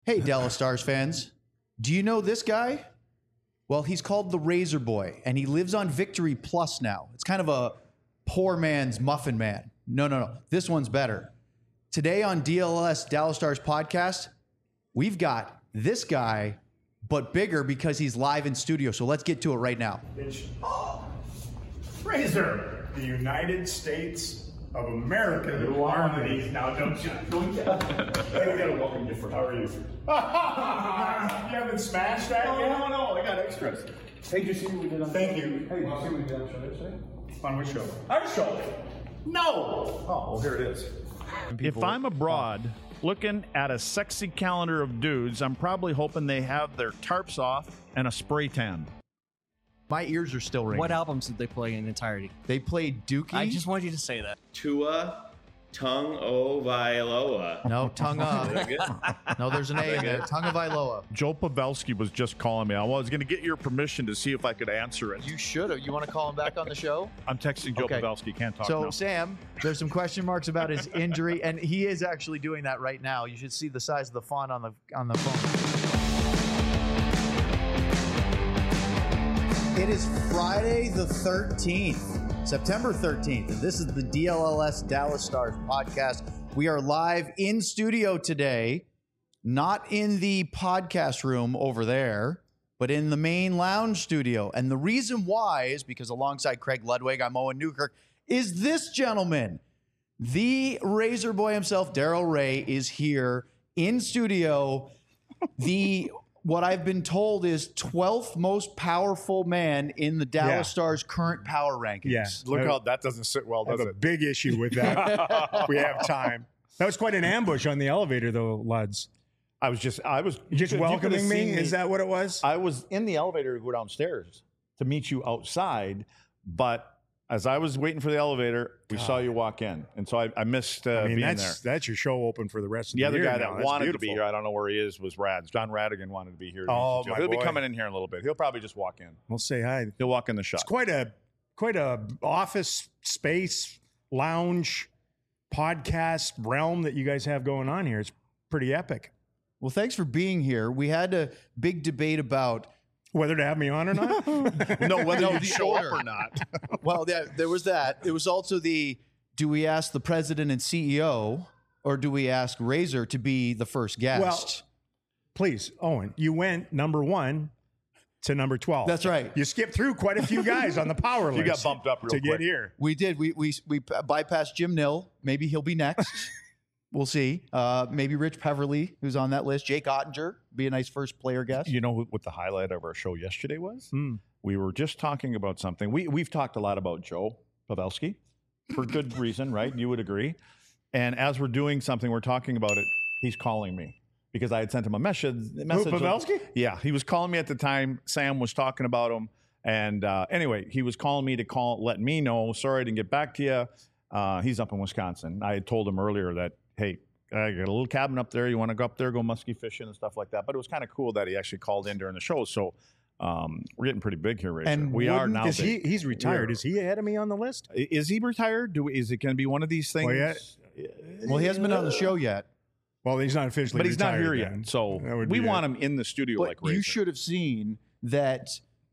Hey, Dallas Stars fans. Do you know this guy? Well, he's called the Razor Boy, and he lives on Victory Plus now. It's kind of a poor man's Muffin Man. No. This one's better. Today on DLS Dallas Stars podcast, we've got this guy, but bigger because he's live in studio. So let's get to it right now. Razor, the United States of America. You want one of these now, don't you? Hey, we got a welcome gift for you. How are you? You haven't smashed that yet? No, I got extras. Hey, did you see what we did on Thank you. Hey, did you see what we did on show yesterday? On which show? Our show. No! Oh, well, here it is. If I'm abroad looking at a sexy calendar of dudes, I'm probably hoping they have their tarps off and a spray tan. My ears are still ringing. What albums did they play in entirety? They played Dookie. I just wanted you to say that. Tua Tagovailoa. No, Tunga. No, there's an A in it. Tunga Vailoa. Joe Pavelski was just calling me. I was going to get your permission to see if I could answer it. You should have. You want to call him back on the show? I'm texting Joe Okay. Pavelski. Can't talk So, now. Sam, there's some question marks about his injury, and he is actually doing that right now. You should see the size of the font on the phone. It is Friday the 13th, September 13th, and this is the DLLS Dallas Stars podcast. We are live in studio today, not in the podcast room over there, but in the main lounge studio. And the reason why is because alongside Craig Ludwig, I'm Owen Newkirk, is this gentleman. The Razor Boy himself, Daryl Ray, is here in studio. What I've been told is 12th most powerful man in the Dallas Stars current power rankings. Yeah. Look how that doesn't sit well, I have does a it? big issue with that. If we have time. That was quite an ambush on the elevator, though, Luds. I was Just you could've welcoming me? seen Is that what it was? I was in the elevator to go downstairs to meet you outside, but as I was waiting for the elevator, we saw you walk in, and so I missed being there. That's your show open for the rest of The the other year guy now. that That's wanted to beautiful. be here, I don't know where he is, was Rads. John Radigan wanted to be here. Oh, my He'll be boy. coming in here in a little bit. He'll probably just walk in. We'll say hi. He'll walk in the shot. It's quite a office space, lounge, podcast realm that you guys have going on here. It's pretty epic. Well, thanks for being here. We had a big debate about, Whether to have me on or not? No, whether No, you the show order. up or not. well, there was that. It was also do we ask the president and CEO, or do we ask Razor to be the first guest? Well, please, Owen, you went number 1 to number 12. That's right. You skipped through quite a few guys on the power list. You got bumped up real to quick. get here. We did. We bypassed Jim Nill. Maybe he'll be next. We'll see. Maybe Rich Peverly, who's on that list. Jake Ottinger, be a nice first player guest. You know what the highlight of our show yesterday was? We were just talking about something. We've talked a lot about Joe Pavelski for good reason, right? You would agree. And as we're doing something, we're talking about it, he's calling me because I had sent him a message. Pavelski? Yeah, he was calling me at the time. Sam was talking about him. And anyway, he was calling me to let me know, sorry I didn't get back to you. He's up in Wisconsin. I had told him earlier that, hey, I got a little cabin up there. You want to go up there, go muskie fishing and stuff like that. But it was kind of cool that he actually called in during the show. So we're getting pretty big here, Razor. And we are now. He's retired. Is he ahead of me on the list? Is he retired? Is it going to be one of these things? Well, he hasn't been on the show yet. Well, he's not officially But he's not retired here then. yet. So That would we be want it. him in the studio But like Razor. you should have seen that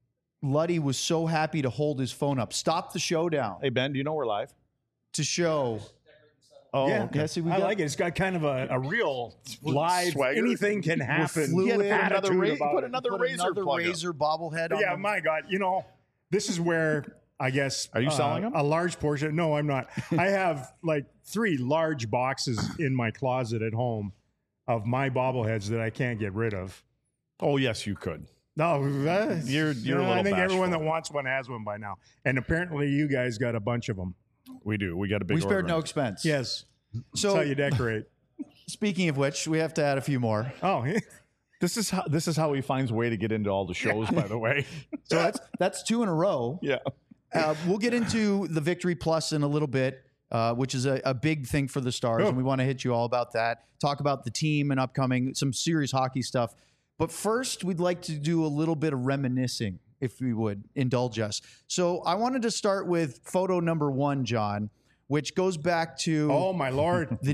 Luddy was so happy to hold his phone up. Stop the show down Hey, Ben, do you know we're live? to show. Oh, Yeah, okay. Yeah, see, we I got- like it. It's got kind of a real live, Swagger. anything can happen. fluid. He had to put another, attitude about put it. another Put Razor another plug up. Razor bobblehead on Yeah, the- my God. This is where I guess. Are you selling them? A large portion. No, I'm not. I have like 3 large boxes in my closet at home of my bobbleheads that I can't get rid of. Oh, yes, you could. No, You're a little I think everyone bashful. that wants one has one by now. And apparently you guys got a bunch of them. We do. We got a big We spared order. no expense. Yes. So, That's how you decorate. speaking of which, we have to add a few more. Oh, This is how he finds a way to get into all the shows, by the way. So that's 2 in a row. Yeah. We'll get into the Victory Plus in a little bit, which is a big thing for the Stars, Oh. and we want to hit you all about that. Talk about the team and upcoming, some serious hockey stuff. But first, we'd like to do a little bit of reminiscing, if we would indulge us. So I wanted to start with photo number 1, John, which goes back to Oh my Lord. the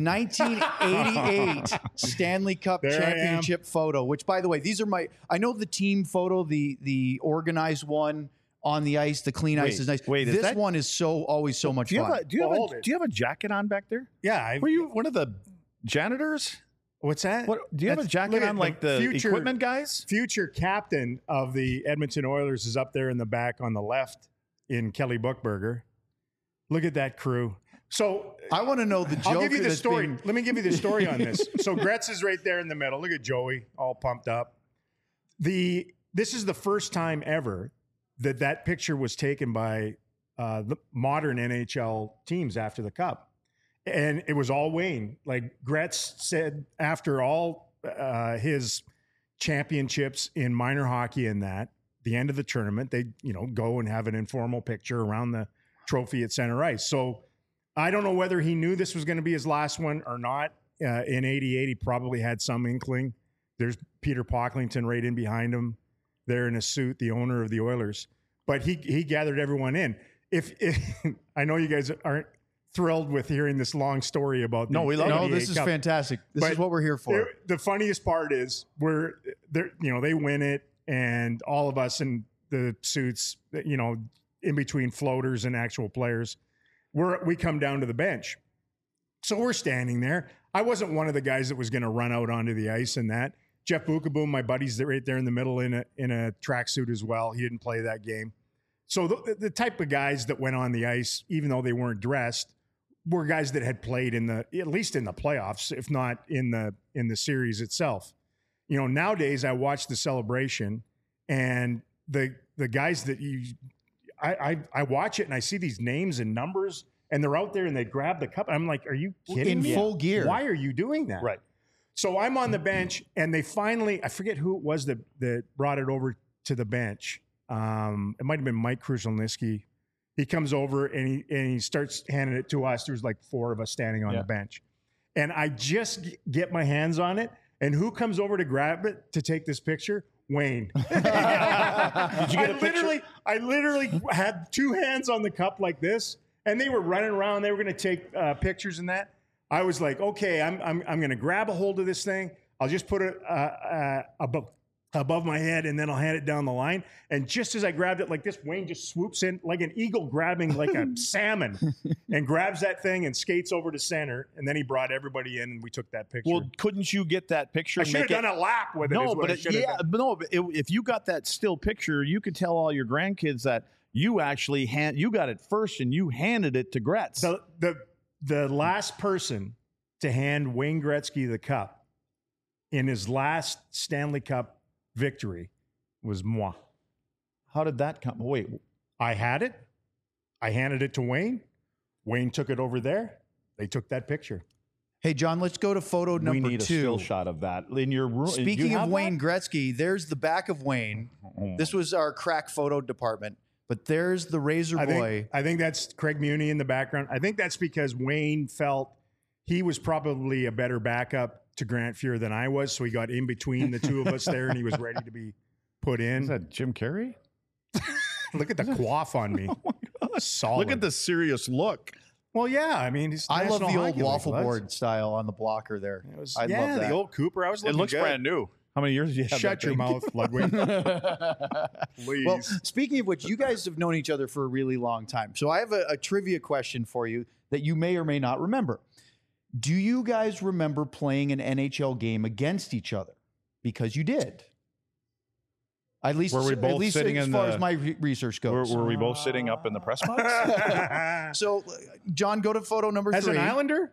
1988 Stanley Cup There I am. championship photo, which, by the way, these are I know the team photo, the organized one on the ice, the clean ice is nice. wait, is this that- one is always so much Do you fun. Hold it. do you have a jacket on back there? Yeah. Were you one of the janitors? What's that? What do you have a That's- jacket look at on like the future- equipment guys? Future captain of the Edmonton Oilers is up there in the back on the left in Kelly Buchberger. Look at that crew. So I want to know the joke. I'll give you the that's story. being- Let me give you the story on this. So Gretz is right there in the middle. Look at Joey, all pumped up. This is the first time ever that picture was taken by the modern NHL teams after the Cup, and it was all Wayne. Like Gretz said, after all his championships in minor hockey and that, the end of the tournament, they go and have an informal picture around the trophy at center ice. So I don't know whether he knew this was going to be his last one or not. In '88, he probably had some inkling. There's Peter Pocklington right in behind him there in a suit, the owner of the Oilers. But he gathered everyone in. If I know you guys aren't thrilled with hearing this long story about No, we love it. No, 88 this is Cup. fantastic. This is But what we're here for. The funniest part is they win it, and all of us in the suits, in between floaters and actual players, we come down to the bench. So we're standing there. I wasn't one of the guys that was going to run out onto the ice and that. Jeff Bukaboom, my buddy's right there in the middle in a tracksuit as well. He didn't play that game. So the type of guys that went on the ice, even though they weren't dressed, were guys that had played at least in the playoffs, if not in the series itself. Nowadays I watch the celebration, and the guys that I watch it and I see these names and numbers, and they're out there and they grab the cup. I'm like, are you kidding In me? full gear. Why are you doing that? Right. So I'm on the bench, and they finally, I forget who it was that brought it over to the bench. It might have been Mike Krushelnyski. He comes over and he starts handing it to us. There's like four of us standing on the bench. And I just get my hands on it. And who comes over to grab it to take this picture? Wayne. Did you get a picture? I literally had two hands on the cup like this, and they were running around. They were going to take pictures and that. I was like, okay, I'm going to grab a hold of this thing. I'll just put it above my head, and then I'll hand it down the line. And just as I grabbed it like this, Wayne just swoops in like an eagle grabbing like a salmon and grabs that thing and skates over to center. And then he brought everybody in, and we took that picture. Well, couldn't you get that picture? I and should have make done a lap with it. No, is what but I should have done. but if you got that still picture, you could tell all your grandkids that you actually you got it first and you handed it to Gretz. The last person to hand Wayne Gretzky the cup in his last Stanley Cup victory was moi. How did that come? Wait, I had it. I handed it to Wayne. Wayne took it over there. They took that picture. Hey, John, let's go to photo number we need a 2. still shot of that in your room. Speaking of Wayne Gretzky, there's the back of Wayne. This was our crack photo department, but there's the Razor Boy. I think that's Craig Muni in the background. I think that's because Wayne felt he was probably a better backup to Grant Fuhr than I was, so he got in between the two of us there, and he was ready to be put in. Is that Jim Carrey? Look at the quaff on me. Solid. Look at the serious look. Well, yeah. I mean, he's I love National the old Hockey League, waffle Les. board style on the blocker there. It was, I yeah, love that. the old Cooper. I was It looking looks good. brand new. How many years did you have? Shut that your thing? mouth, Ludwig. Please. Well, speaking of which, you guys have known each other for a really long time. So I have a trivia question for you that you may or may not remember. Do you guys remember playing an NHL game against each other? Because you did. At least, Were we both at least sitting as in far the- as my research goes. Were we both sitting up in the press box? So, John, go to photo number As 3. an Islander?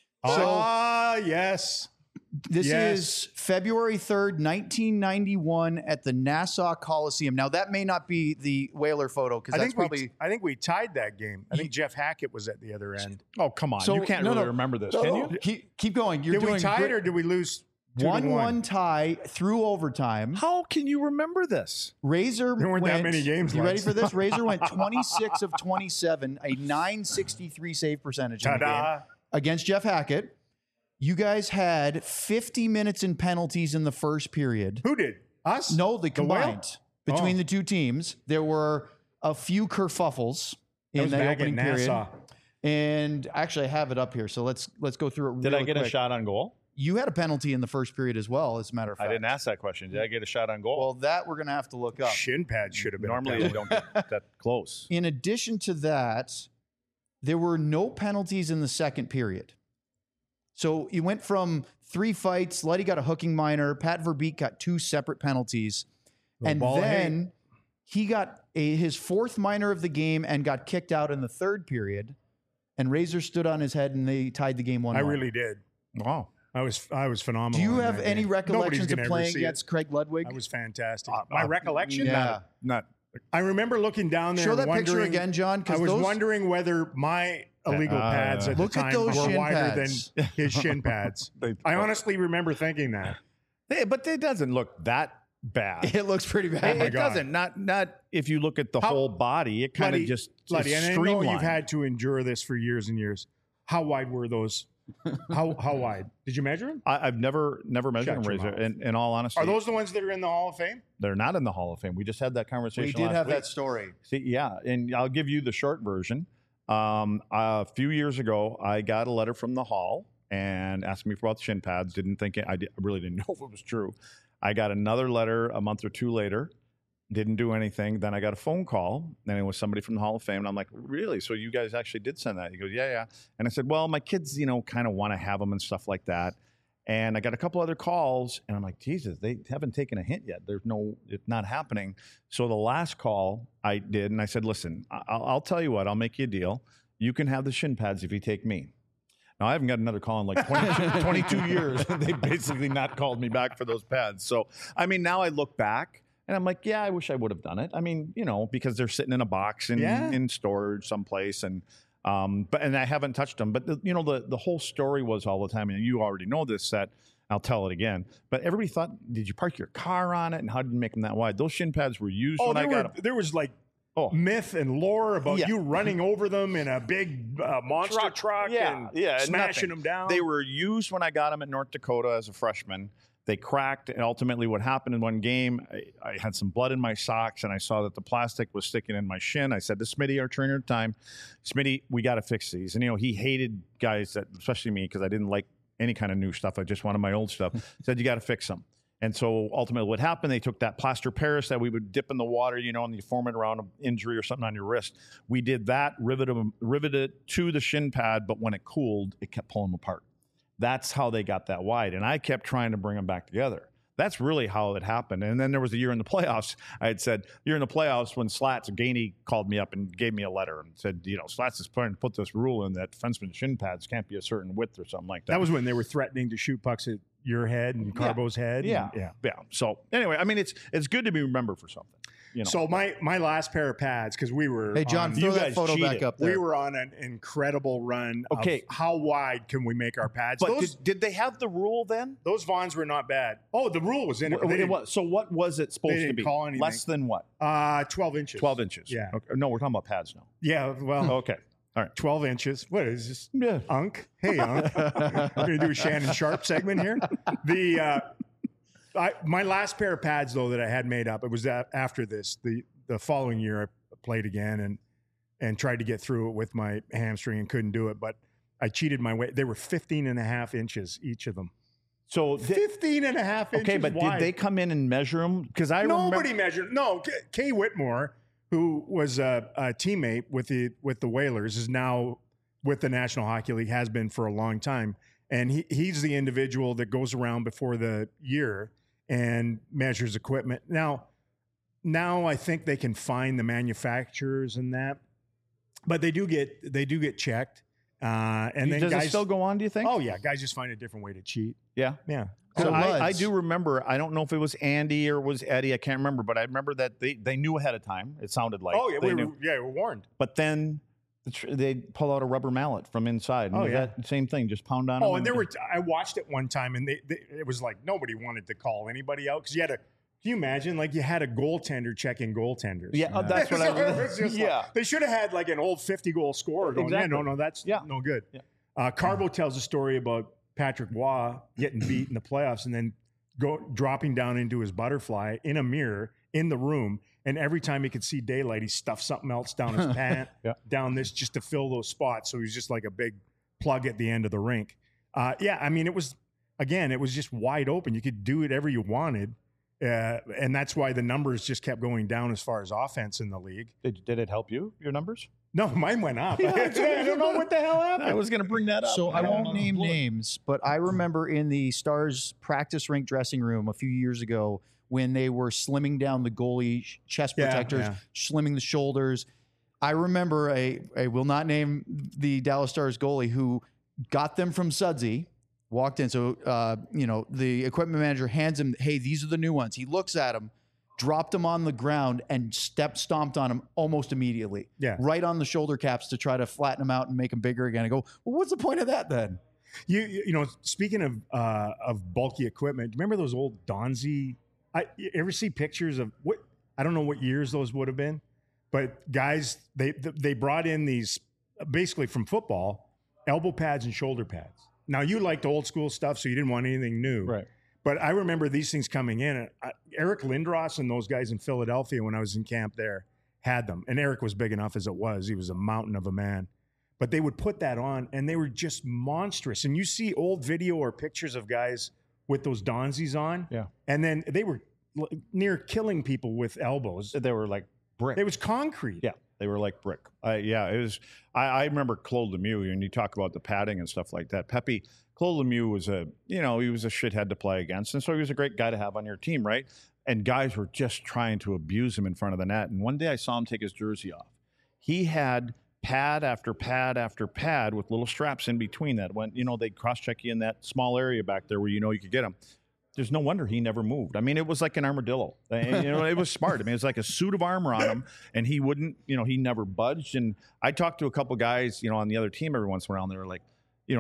Yes. This Yes. is February 3rd, 1991 at the Nassau Coliseum. Now, that may not be the Whaler photo because I that's think probably... I think we tied that game. I think Jeff Hackett was at the other end. Oh, come on. So- you can't no, really no. remember this, No, can no. you? Keep going. You're Did doing we tie great. it or did we lose 2-1? 1-1 tie through overtime. How can you remember this? Razor There weren't that went, many games You ready left. for this? Razor went 26 of 27, a 963 save percentage in the game Ta-da. against Jeff Hackett. You guys had 50 minutes in penalties in the first period. Who did? Us? No, they The Whale? combined between Oh. the two teams. There were a few kerfuffles That in was the back opening at period. Nassau. And actually, I have it up here. So let's go through it. Did I really get a quick. shot on goal? You had a penalty in the first period as well, as a matter of fact. I didn't ask that question. Did I get a shot on goal? Well, that we're going to have to look up. Shin pads should have been. Normally they don't get that close. In addition to that, there were no penalties in the second period. So you went from 3 fights. Letty got a hooking minor. Pat Verbeek got 2 separate penalties. And then he got his 4th minor of the game and got kicked out in the third period. And Razor stood on his head and they tied the game 1-1. I really did. Wow. I was phenomenal. Do you in have that any game. recollections Nobody's of gonna ever playing see it. against Craig Ludwig? I was fantastic. My recollection? Yeah. Not I remember looking down there Show and that picture wondering, again, John. I was wondering whether my illegal pads at the Look at time those were shin wider pads. than his shin pads. I honestly remember thinking that. but it doesn't look that bad. It looks pretty bad. It doesn't. Not if you look at the whole body. It kind of just Bloody, is and I know streamlined. you've had to endure this for years and years. How wide were those? How wide? Did you measure them? I've never measured Shut them, your Razor. mouth. In all honesty, Are those the ones that are in the Hall of Fame? they're not in the Hall of Fame. We just had that conversation. We did last have week. that story. See, yeah, and I'll give you the short version. A few years ago, I got a letter from the Hall and asked me about the shin pads. I really didn't know if it was true. I got another letter a month or 2 later. Didn't do anything. Then I got a phone call, and it was somebody from the Hall of Fame. And I'm like, really? So you guys actually did send that? He goes, yeah. And I said, well, my kids, kind of want to have them and stuff like that. And I got a couple other calls, and I'm like, Jesus, they haven't taken a hint yet. It's not happening. So the last call I did, and I said, listen, I'll tell you what, I'll make you a deal. You can have the shin pads if you take me. Now, I haven't got another call in like 22 years. They basically not called me back for those pads. So, now I look back, and I'm like, yeah, I wish I would have done it. Because they're sitting in a box in storage someplace, and I haven't touched them. But the whole story was all the time, and you already know this, that I'll tell it again. But everybody thought, did you park your car on it, and how did you make them that wide? Those shin pads were used when I got them. There was like myth and lore about you running over them in a big monster truck and smashing them down. They were used when I got them at North Dakota as a freshman. They cracked, and ultimately what happened in one game, I had some blood in my socks, and I saw that the plastic was sticking in my shin. I said to Smitty, our trainer at the time, Smitty, we got to fix these. And, he hated guys that, especially me, because I didn't like any kind of new stuff. I just wanted my old stuff. Said, you got to fix them. And so ultimately what happened, they took that plaster Paris that we would dip in the water, and you form it around an injury or something on your wrist. We did that, riveted it to the shin pad, but when it cooled, it kept pulling them apart. That's how they got that wide. And I kept trying to bring them back together. That's really how it happened. And then there was a year in the playoffs. I had said, year in the playoffs when Slats, Gainey called me up and gave me a letter and said, Slats is trying to put this rule in that defenseman shin pads can't be a certain width or something like that. That was when they were threatening to shoot pucks at your head and Carbo's head. Yeah. So anyway, it's good to be remembered for something. So my last pair of pads, because we were Hey, John, throw that photo back up there. We were on an incredible run. Okay. Of how wide can we make our pads? But did they have the rule then? Those Vons were not bad. Oh, the rule was in it. It was. So what was it supposed to be? Call anything. Less than what? 12 inches. 12 inches. Yeah. Okay. No, we're talking about pads now. Yeah. Well. Okay. All right. 12 inches. What is this? Yeah. Unk. Hey, Unk. We're going to do a Shannon Sharp segment here. My last pair of pads, though, that I had made up, it was after this. The following year, I played again and tried to get through it with my hamstring and couldn't do it. But I cheated my way. They were 15 and a half inches, each of them. So 15 and a half inches Okay, but wide. did they come in and measure them? Because Nobody measured. No, Kay Whitmore, who was a teammate with the Whalers, is now with the National Hockey League, has been for a long time. And he's the individual that goes around before the year and measures equipment. Now I think they can find the manufacturers and that, but they do get checked. And then does guys it still go on, do you think? Oh yeah, guys just find a different way to cheat. Yeah. Yeah. So I Luds. do remember, I don't know if it was Andy or was Eddie, I can't remember, but I remember that they knew ahead of time. It sounded like. Oh yeah, they we knew. were warned. But then they pull out a rubber mallet from inside. And that same thing, just pound on them. Oh, and I watched it one time, and it was like nobody wanted to call anybody out because you had a. Can you imagine? Like you had a goaltender checking goaltenders. Yeah, that's what I was. Like, they should have had like an old 50-goal scorer going. Exactly. Yeah, no, that's no good. Yeah. Carbo tells a story about Patrick Waugh getting beat in the playoffs and then dropping down into his butterfly in a mirror in the room And every time he could see daylight, he stuffed something else down his pant, down this, just to fill those spots. So he was just like a big plug at the end of the rink. I mean, it was just wide open. You could do whatever you wanted. And that's why the numbers just kept going down as far as offense in the league. Did it help you, your numbers? No, mine went up. I don't know what the hell happened. I was going to bring that up. So I won't name names, but I remember in the Stars practice rink dressing room a few years ago when they were slimming down the goalie chest protectors, slimming the shoulders. I remember I will not name the Dallas Stars goalie who got them from Sudsy, walked in. So, the equipment manager hands him, hey, these are the new ones. He looks at them, dropped them on the ground, and stomped on them almost immediately. Yeah. Right on the shoulder caps to try to flatten them out and make them bigger again. I go, well, what's the point of that then? You know, speaking of bulky equipment, remember those old Donzi? You ever see pictures of what? I don't know what years those would have been, but guys, they brought in these basically from football, elbow pads and shoulder pads. Now you liked old school stuff, so you didn't want anything new, Right. But I remember these things coming in. Eric Lindros and those guys in Philadelphia when I was in camp there had them, and Eric was big enough as it was. He was a mountain of a man. But they would put that on, and they were just monstrous. And you see old video or pictures of guys with those Donzis on, and then they were near killing people with elbows. They were like brick. It was concrete. Yeah, they were like brick. It was. I remember Claude Lemieux, and you talk about the padding and stuff like that. Claude Lemieux was he was a shithead to play against, and so he was a great guy to have on your team, right? And guys were just trying to abuse him in front of the net. And one day I saw him take his jersey off. He had pad after pad after pad with little straps in between that. When they'd cross-check you in that small area back there where you could get him. There's no wonder he never moved. I mean, it was like an armadillo. It was smart. I mean, it was like a suit of armor on him, and he wouldn't, he never budged. And I talked to a couple guys, on the other team every once in a while, and they were like,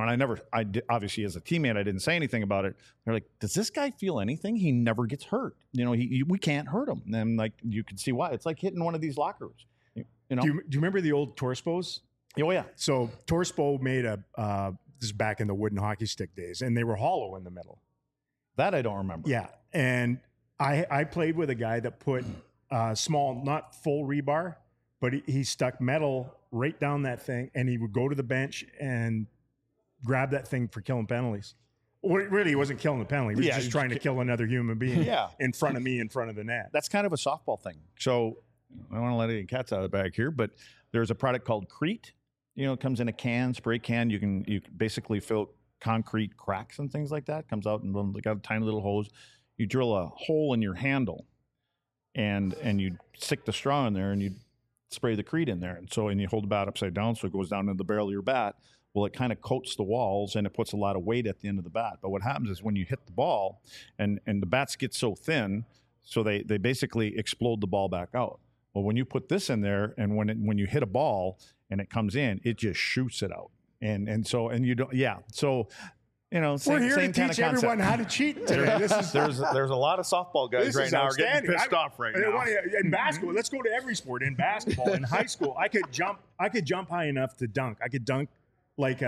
and obviously as a teammate, I didn't say anything about it. They're like, does this guy feel anything? He never gets hurt. We can't hurt him. And like, you can see why. It's like hitting one of these lockers. Do you remember the old Torspos? Oh, yeah. So Torspo made this is back in the wooden hockey stick days, and they were hollow in the middle. That I don't remember. Yeah. And I played with a guy that put small, not full rebar, but he stuck metal right down that thing, and he would go to the bench and grab that thing for killing penalties. Well, really, he wasn't killing the penalty. He was just trying to kill another human being in front of me, in front of the net. That's kind of a softball thing. So I don't want to let any cats out of the bag here, but there's a product called Crete. It comes in a can, spray can. You can basically fill concrete cracks and things like that. Comes out and they got a tiny little hose. You drill a hole in your handle, and you stick the straw in there, and you spray the Crete in there, and you hold the bat upside down so it goes down into the barrel of your bat. Well, it kind of coats the walls, and it puts a lot of weight at the end of the bat. But what happens is when you hit the ball, and the bats get so thin, so they basically explode the ball back out. Well, when you put this in there, and when you hit a ball and it comes in, it just shoots it out. And you don't, so we're here to teach everyone how to cheat today. There's a lot of softball guys right now are getting pissed off right now. In basketball, let's go to every sport. In basketball, in high school, I could jump high enough to dunk. I could dunk like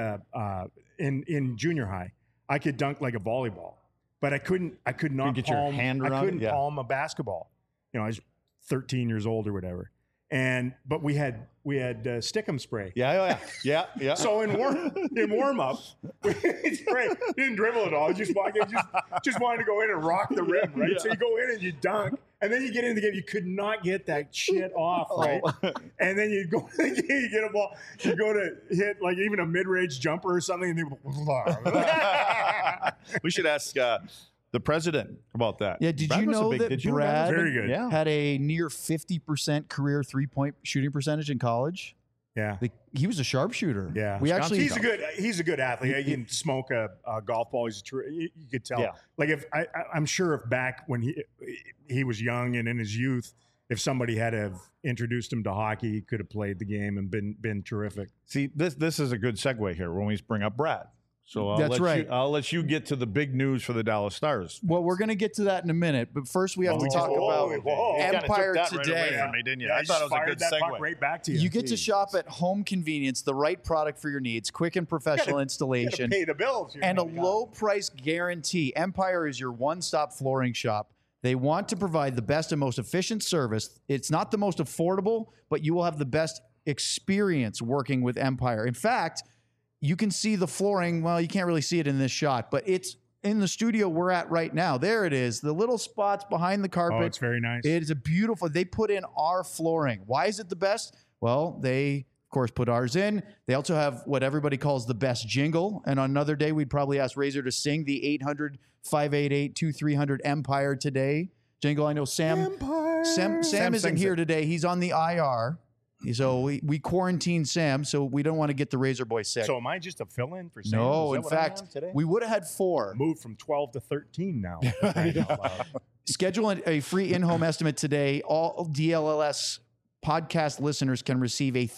in junior high. I could dunk like a volleyball, but I could not get palm, your hand around I couldn't it? Yeah. palm a basketball. I was 13 years old or whatever. But we had stickum spray. Yeah. So in warm up, we spray. Didn't dribble at all. Just wanted to go in and rock the rim, right? Yeah. So you go in and you dunk, and then you get in the game. You could not get that shit off, right? And then you go, you get a ball, you go to hit like even a mid-range jumper or something, and We should ask the president about that. Yeah, did you know that Brad Very good. had a near 50% career three-point shooting percentage in college? Yeah. He was a sharpshooter. Yeah, he's a good athlete. He can smoke a golf ball. You could tell. Yeah. Like I'm sure if back when he was young and in his youth, if somebody had have introduced him to hockey, he could have played the game and been terrific. See, this is a good segue here when we bring up Brad. So I'll let you get to the big news for the Dallas Stars. Well, we're going to get to that in a minute, but first we have to talk about Empire Today. Right me, didn't you? Yeah, I thought it was a good segue. Right back to you. You get to shop at Home Convenience, the right product for your needs, quick and professional installation, pay the bills, and a low price guarantee. Empire is your one-stop flooring shop. They want to provide the best and most efficient service. It's not the most affordable, but you will have the best experience working with Empire. In fact, you can see the flooring. Well, you can't really see it in this shot, but it's in the studio we're at right now. There it is. The little spots behind the carpet. Oh, it's very nice. It is a beautiful. They put in our flooring. Why is it the best? Well, they, of course, put ours in. They also have what everybody calls the best jingle. And on another day, we'd probably ask Razor to sing the 800-588-2300 Empire Today jingle. I know Sam isn't here today. He's on the IR. So we quarantined Sam, so we don't want to get the Razor Boy sick. So am I just a fill-in for Sam? No, Is that in what I fact, am today? we would have had 4. Moved from 12 to 13 now. Schedule a free in-home estimate today. All DLLS podcast listeners can receive a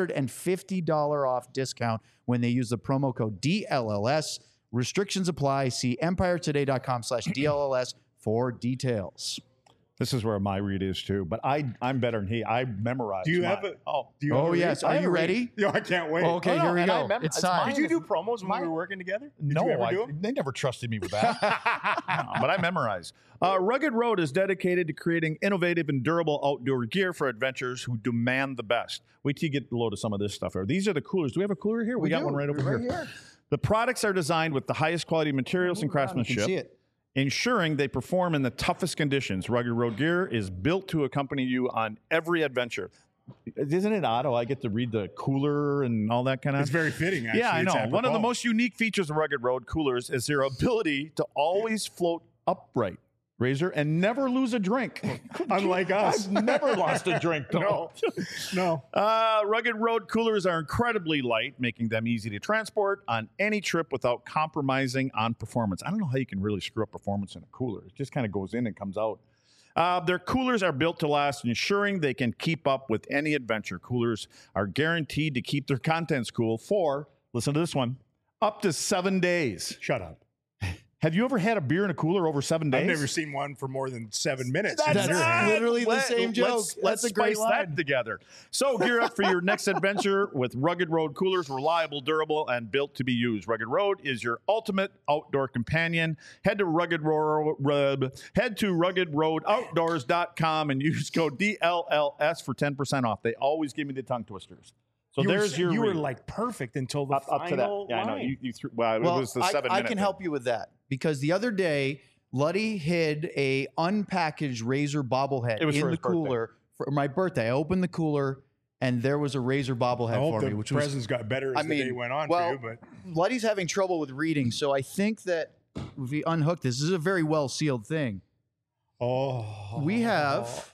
$350 off discount when they use the promo code DLLS. Restrictions apply. See empiretoday.com/DLLS for details. This is where my read is too, but I'm better than he. I memorized. Do you mine. have a? Oh, Do you have a read? Yes. Are you ready? Yo, I can't wait. Okay, Oh, no, here we and I go. remember- It's it's time. mine. Did you do promos when we were working together? Did No, you ever do them? they never trusted me with that. No, but I memorize. Rugged Road is dedicated to creating innovative and durable outdoor gear for adventurers who demand the best. Wait till you get a load of some of this stuff. These are the coolers. Do we have a cooler here? We got one right over here. The products are designed with the highest quality materials and craftsmanship, You can see it. ensuring they perform in the toughest conditions. Rugged Road gear is built to accompany you on every adventure. Isn't it odd how I get to read the cooler and all that kind of It's very fitting, actually. Yeah, I It's know. One of the apropos. most unique features of Rugged Road coolers is their ability to always float upright, Razor, and never lose a drink. Unlike us. I've never lost a drink, though. No. Rugged Road coolers are incredibly light, making them easy to transport on any trip without compromising on performance. I don't know how you can really screw up performance in a cooler. It just kind of goes in and comes out. Their coolers are built to last, ensuring they can keep up with any adventure. Coolers are guaranteed to keep their contents cool for, listen to this one, up to 7 days. Shut up. Have you ever had a beer in a cooler over 7 days? I've never seen one for more than 7 minutes. That's literally the same joke. Let's That's a great spice line. that together. So gear up for your next adventure with Rugged Road coolers, reliable, durable, and built to be used. Rugged Road is your ultimate outdoor companion. Head to ruggedroadoutdoors.com and use code DLLS for 10% off. They always give me the tongue twisters. So there's your You were read. like perfect until the up to that. final Yeah, I know. line. You threw, well, Well, it was the I 7 minute. can thing. help you with that because the other day, Luddy hid a unpackaged Razor bobblehead It was in for the his birthday. cooler for my birthday. I opened the cooler and there was a Razor bobblehead I hope for the me, which was presents got better as the day went on well, for you, but Luddy's having trouble with reading, so I think that if we unhook this is a very well sealed thing. We have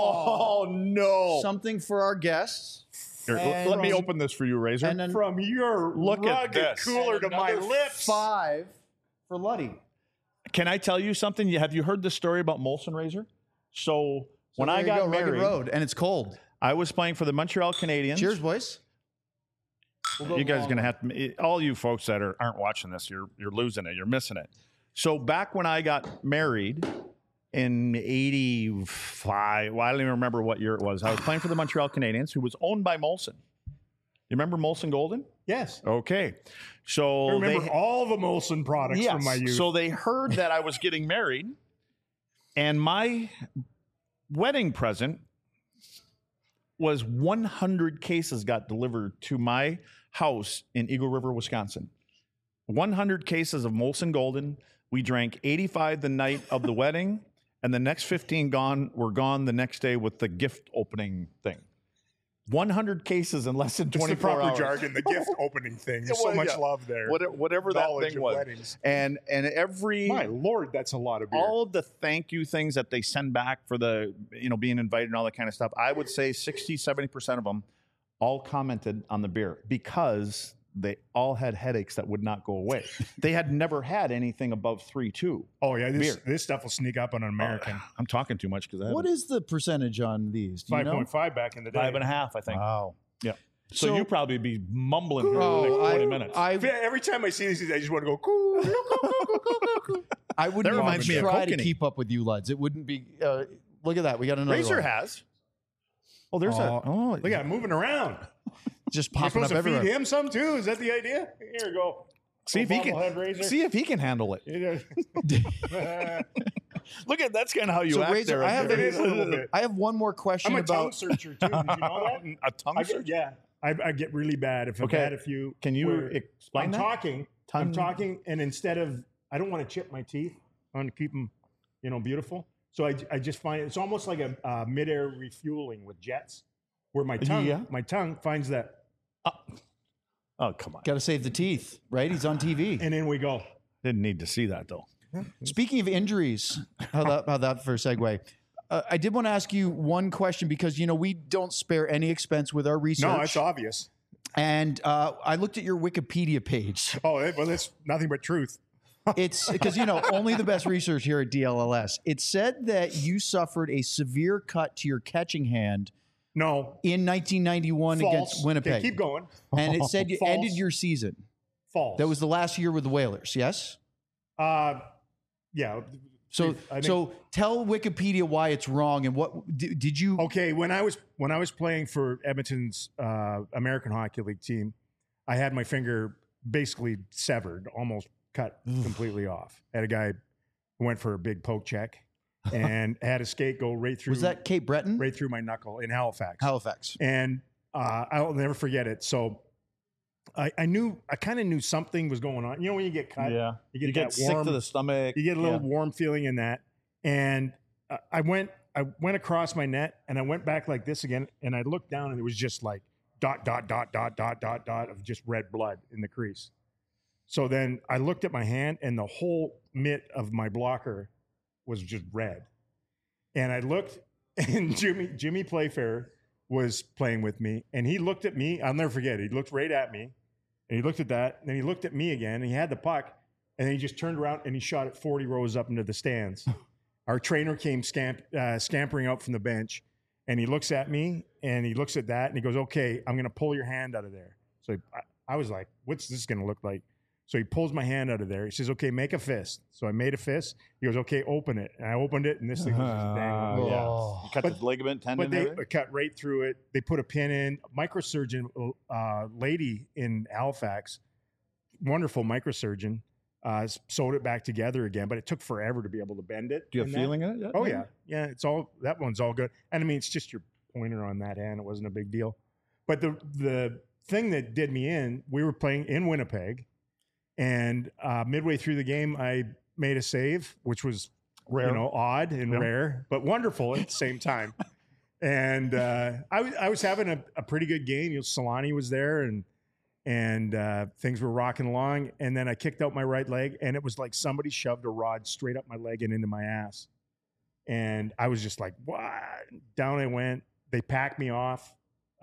no. something for our guests. Here, And let me open this for you, Razor. And then from your Look at rugged this. cooler to my lips. 5 for Luddy. Can I tell you something? Have you heard the story about Molson Razor? So when There I you got go, Rugged married, Road, and it's cold. I was playing for the Montreal Canadiens. Cheers, boys. We'll go You guys are long going to one. have to, all you folks that aren't watching this, you're losing it. You're missing it. So back when I got married in 85, well, I don't even remember what year it was. I was playing for the Montreal Canadiens, who was owned by Molson. You remember Molson Golden? Yes. Okay. So I remember all the Molson products from my youth. So they heard that I was getting married, and my wedding present was 100 cases got delivered to my house in Eagle River, Wisconsin. 100 cases of Molson Golden. We drank 85 the night of the wedding, and the next 15 were gone the next day with the gift opening thing. 100 cases in less than It's the 24 proper hours. jargon, the gift opening thing. There's so Well, much yeah. love there. Whatever that Knowledge thing of was. weddings. And every My Lord, that's a lot of beer. all of the thank you things that they send back for the being invited and all that kind of stuff, I would say 60-70% of them all commented on the beer because they all had headaches that would not go away. They had never had anything above 3.2. Oh yeah, beer. this stuff will sneak up on an American. I'm talking too much because I What is the percentage on these? Do you know? 5.5 back in the day. 5.5, I think. Wow. Yeah. So, So- you probably be mumbling here for the next 20 minutes. Yeah, every time I see these, I just want to go cool. I wouldn't That reminds me even of try to Kokanee. keep up with you, lads. It wouldn't be. Look at that. We got another Razor one. has. Oh, there's Look at him moving around. Just You're popping supposed up to feed everywhere. him some too. Is that the idea? Here we go. see if he can bobblehead Razor. see if he can handle it. Look at that's kind of how you So act Razor, there. I have It is a little bit. I have one more question I'm a tongue about. searcher too. Did you know that? a tongue searcher. Yeah, I get really bad if I've Okay. had a few. Can you where explain I'm that? talking. Tongue- I'm talking, and instead of I don't want to chip my teeth. I want to keep them, beautiful. So I just find it's almost like a midair refueling with jets, where my tongue finds that, Oh, come on. Got to save the teeth, right? He's on TV. and in we go. Didn't need to see that though. Speaking of injuries, how that for a segue? I did want to ask you one question because we don't spare any expense with our research. No, it's obvious. And I looked at your Wikipedia page. Oh, well, that's nothing but truth. It's because only the best research here at DLLS. It said that you suffered a severe cut to your catching hand No, in 1991 false. against Winnipeg. Okay, keep going. And it said you False. ended your season. False. That was the last year with the Whalers. Yes. Yeah. So I think- so tell Wikipedia why it's wrong and what did you? Okay, when I was playing for Edmonton's American Hockey League team, I had my finger basically severed, almost cut completely off. Had a guy who went for a big poke check and had a skate go right through. Was that Cape Breton? right through my knuckle in Halifax? Halifax. And I'll never forget it. So I kind of knew something was going on. When you get cut, Yeah. you get, that sick warm, to the stomach. you get a little warm feeling in that. And I went across my net and I went back like this again. And I looked down and it was just like dot, dot, dot, dot, dot, dot, dot of just red blood in the crease. So then I looked at my hand and the whole mitt of my blocker was just red. And I looked and Jimmy Playfair was playing with me and he looked at me. I'll never forget it. He looked right at me and he looked at that. And then he looked at me again and he had the puck and then he just turned around and he shot it 40 rows up into the stands. Our trainer came scampering out from the bench and he looks at me and he looks at that and he goes, "Okay, I'm going to pull your hand out of there." So I was like, "What's this going to look like?" So he pulls my hand out of there. He says, "Okay, make a fist." So I made a fist. He goes, "Okay, open it." And I opened it and this thing was just dangling. Yeah. Oh. You cut the ligament tendon. But they and everything? cut right through it. They put a pin in. Microsurgeon lady in Halifax, wonderful microsurgeon, sewed it back together again. But it took forever to be able to bend it. Do you have and that. feeling in it yet? Oh yeah, yeah. It's all that one's all good. And I mean, it's just your pointer on that hand. It wasn't a big deal. But the thing that did me in, we were playing in Winnipeg, and midway through the game, I made a save, which was Rare. odd and rare, but wonderful at the same time. And I was having a pretty good game. Solani was there, and things were rocking along. And then I kicked out my right leg, and it was like somebody shoved a rod straight up my leg and into my ass. And I was just like, "What?" Down I went. They packed me off.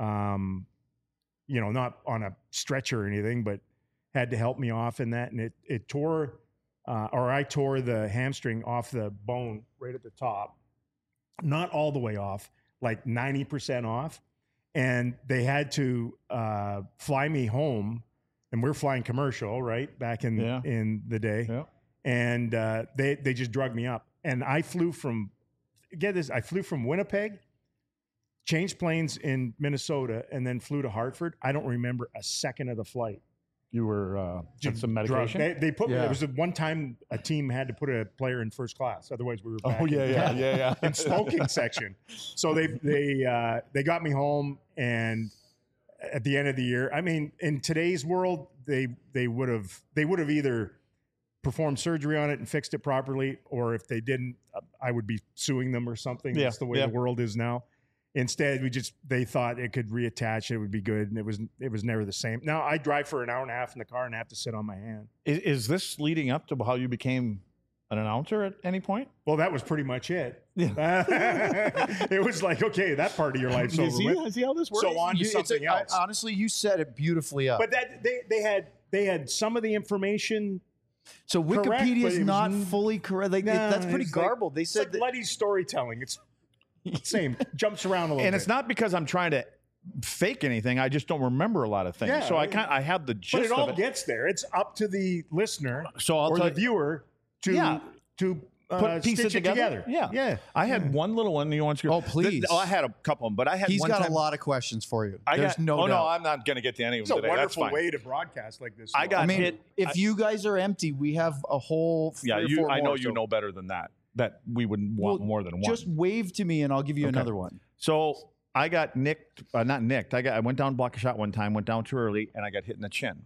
Not on a stretcher or anything, but had to help me off in that. And it tore, or I tore the hamstring off the bone right at the top. Not all the way off, like 90% off. And they had to fly me home. And we're flying commercial, right? Back in the day. Yeah. And they just drugged me up. And I flew from, I flew from Winnipeg, changed planes in Minnesota, and then flew to Hartford. I don't remember a second of the flight. You were Just some medication. drugged. They put me. Yeah. It was the one time a team had to put a player in first class. Otherwise, we were back yeah. in smoking section. So they got me home, and at the end of the year, I mean, in today's world, they would have either performed surgery on it and fixed it properly, or if they didn't, I would be suing them or something. Yeah, That's the way yeah. the world is now. Instead, they thought it could reattach, it would be good, and it was never the same. Now I drive for an hour and a half in the car and have to sit on my hand. Is this leading up to how you became an announcer at any point? Well, that was pretty much it. It was like, okay, that part of your life's over with. Is he how this works? So on to something else. Honestly, you set it beautifully up. But that they had some of the information. So correct, Wikipedia but is it was not n- fully correct. Like, No, that's pretty it's like- garbled. They It's said like that. bloody storytelling. It's same, jumps around a little And bit. it's not because I'm trying to fake anything. I just don't remember a lot of things. Yeah. So I have the gist But it all of it. gets there. It's up to the listener So I'll or tell the you- viewer to Yeah. Put stitch pieces it together. Yeah. Yeah. I had one little one. You want to? Oh, please. I had a couple of them, but I had He's one got time. a lot of questions for you. There's There's no doubt. no, I'm not going to get to any of It's them a today. That's wonderful fine. way to broadcast like this. I got I mean, hit. if you guys are empty, we have a whole three Yeah, or four I know more, you so- know better than that. that we would want more than one. Just wave to me and I'll give you Okay. another one. So I got nicked, not nicked. I went down to block a shot one time, went down too early, and I got hit in the chin.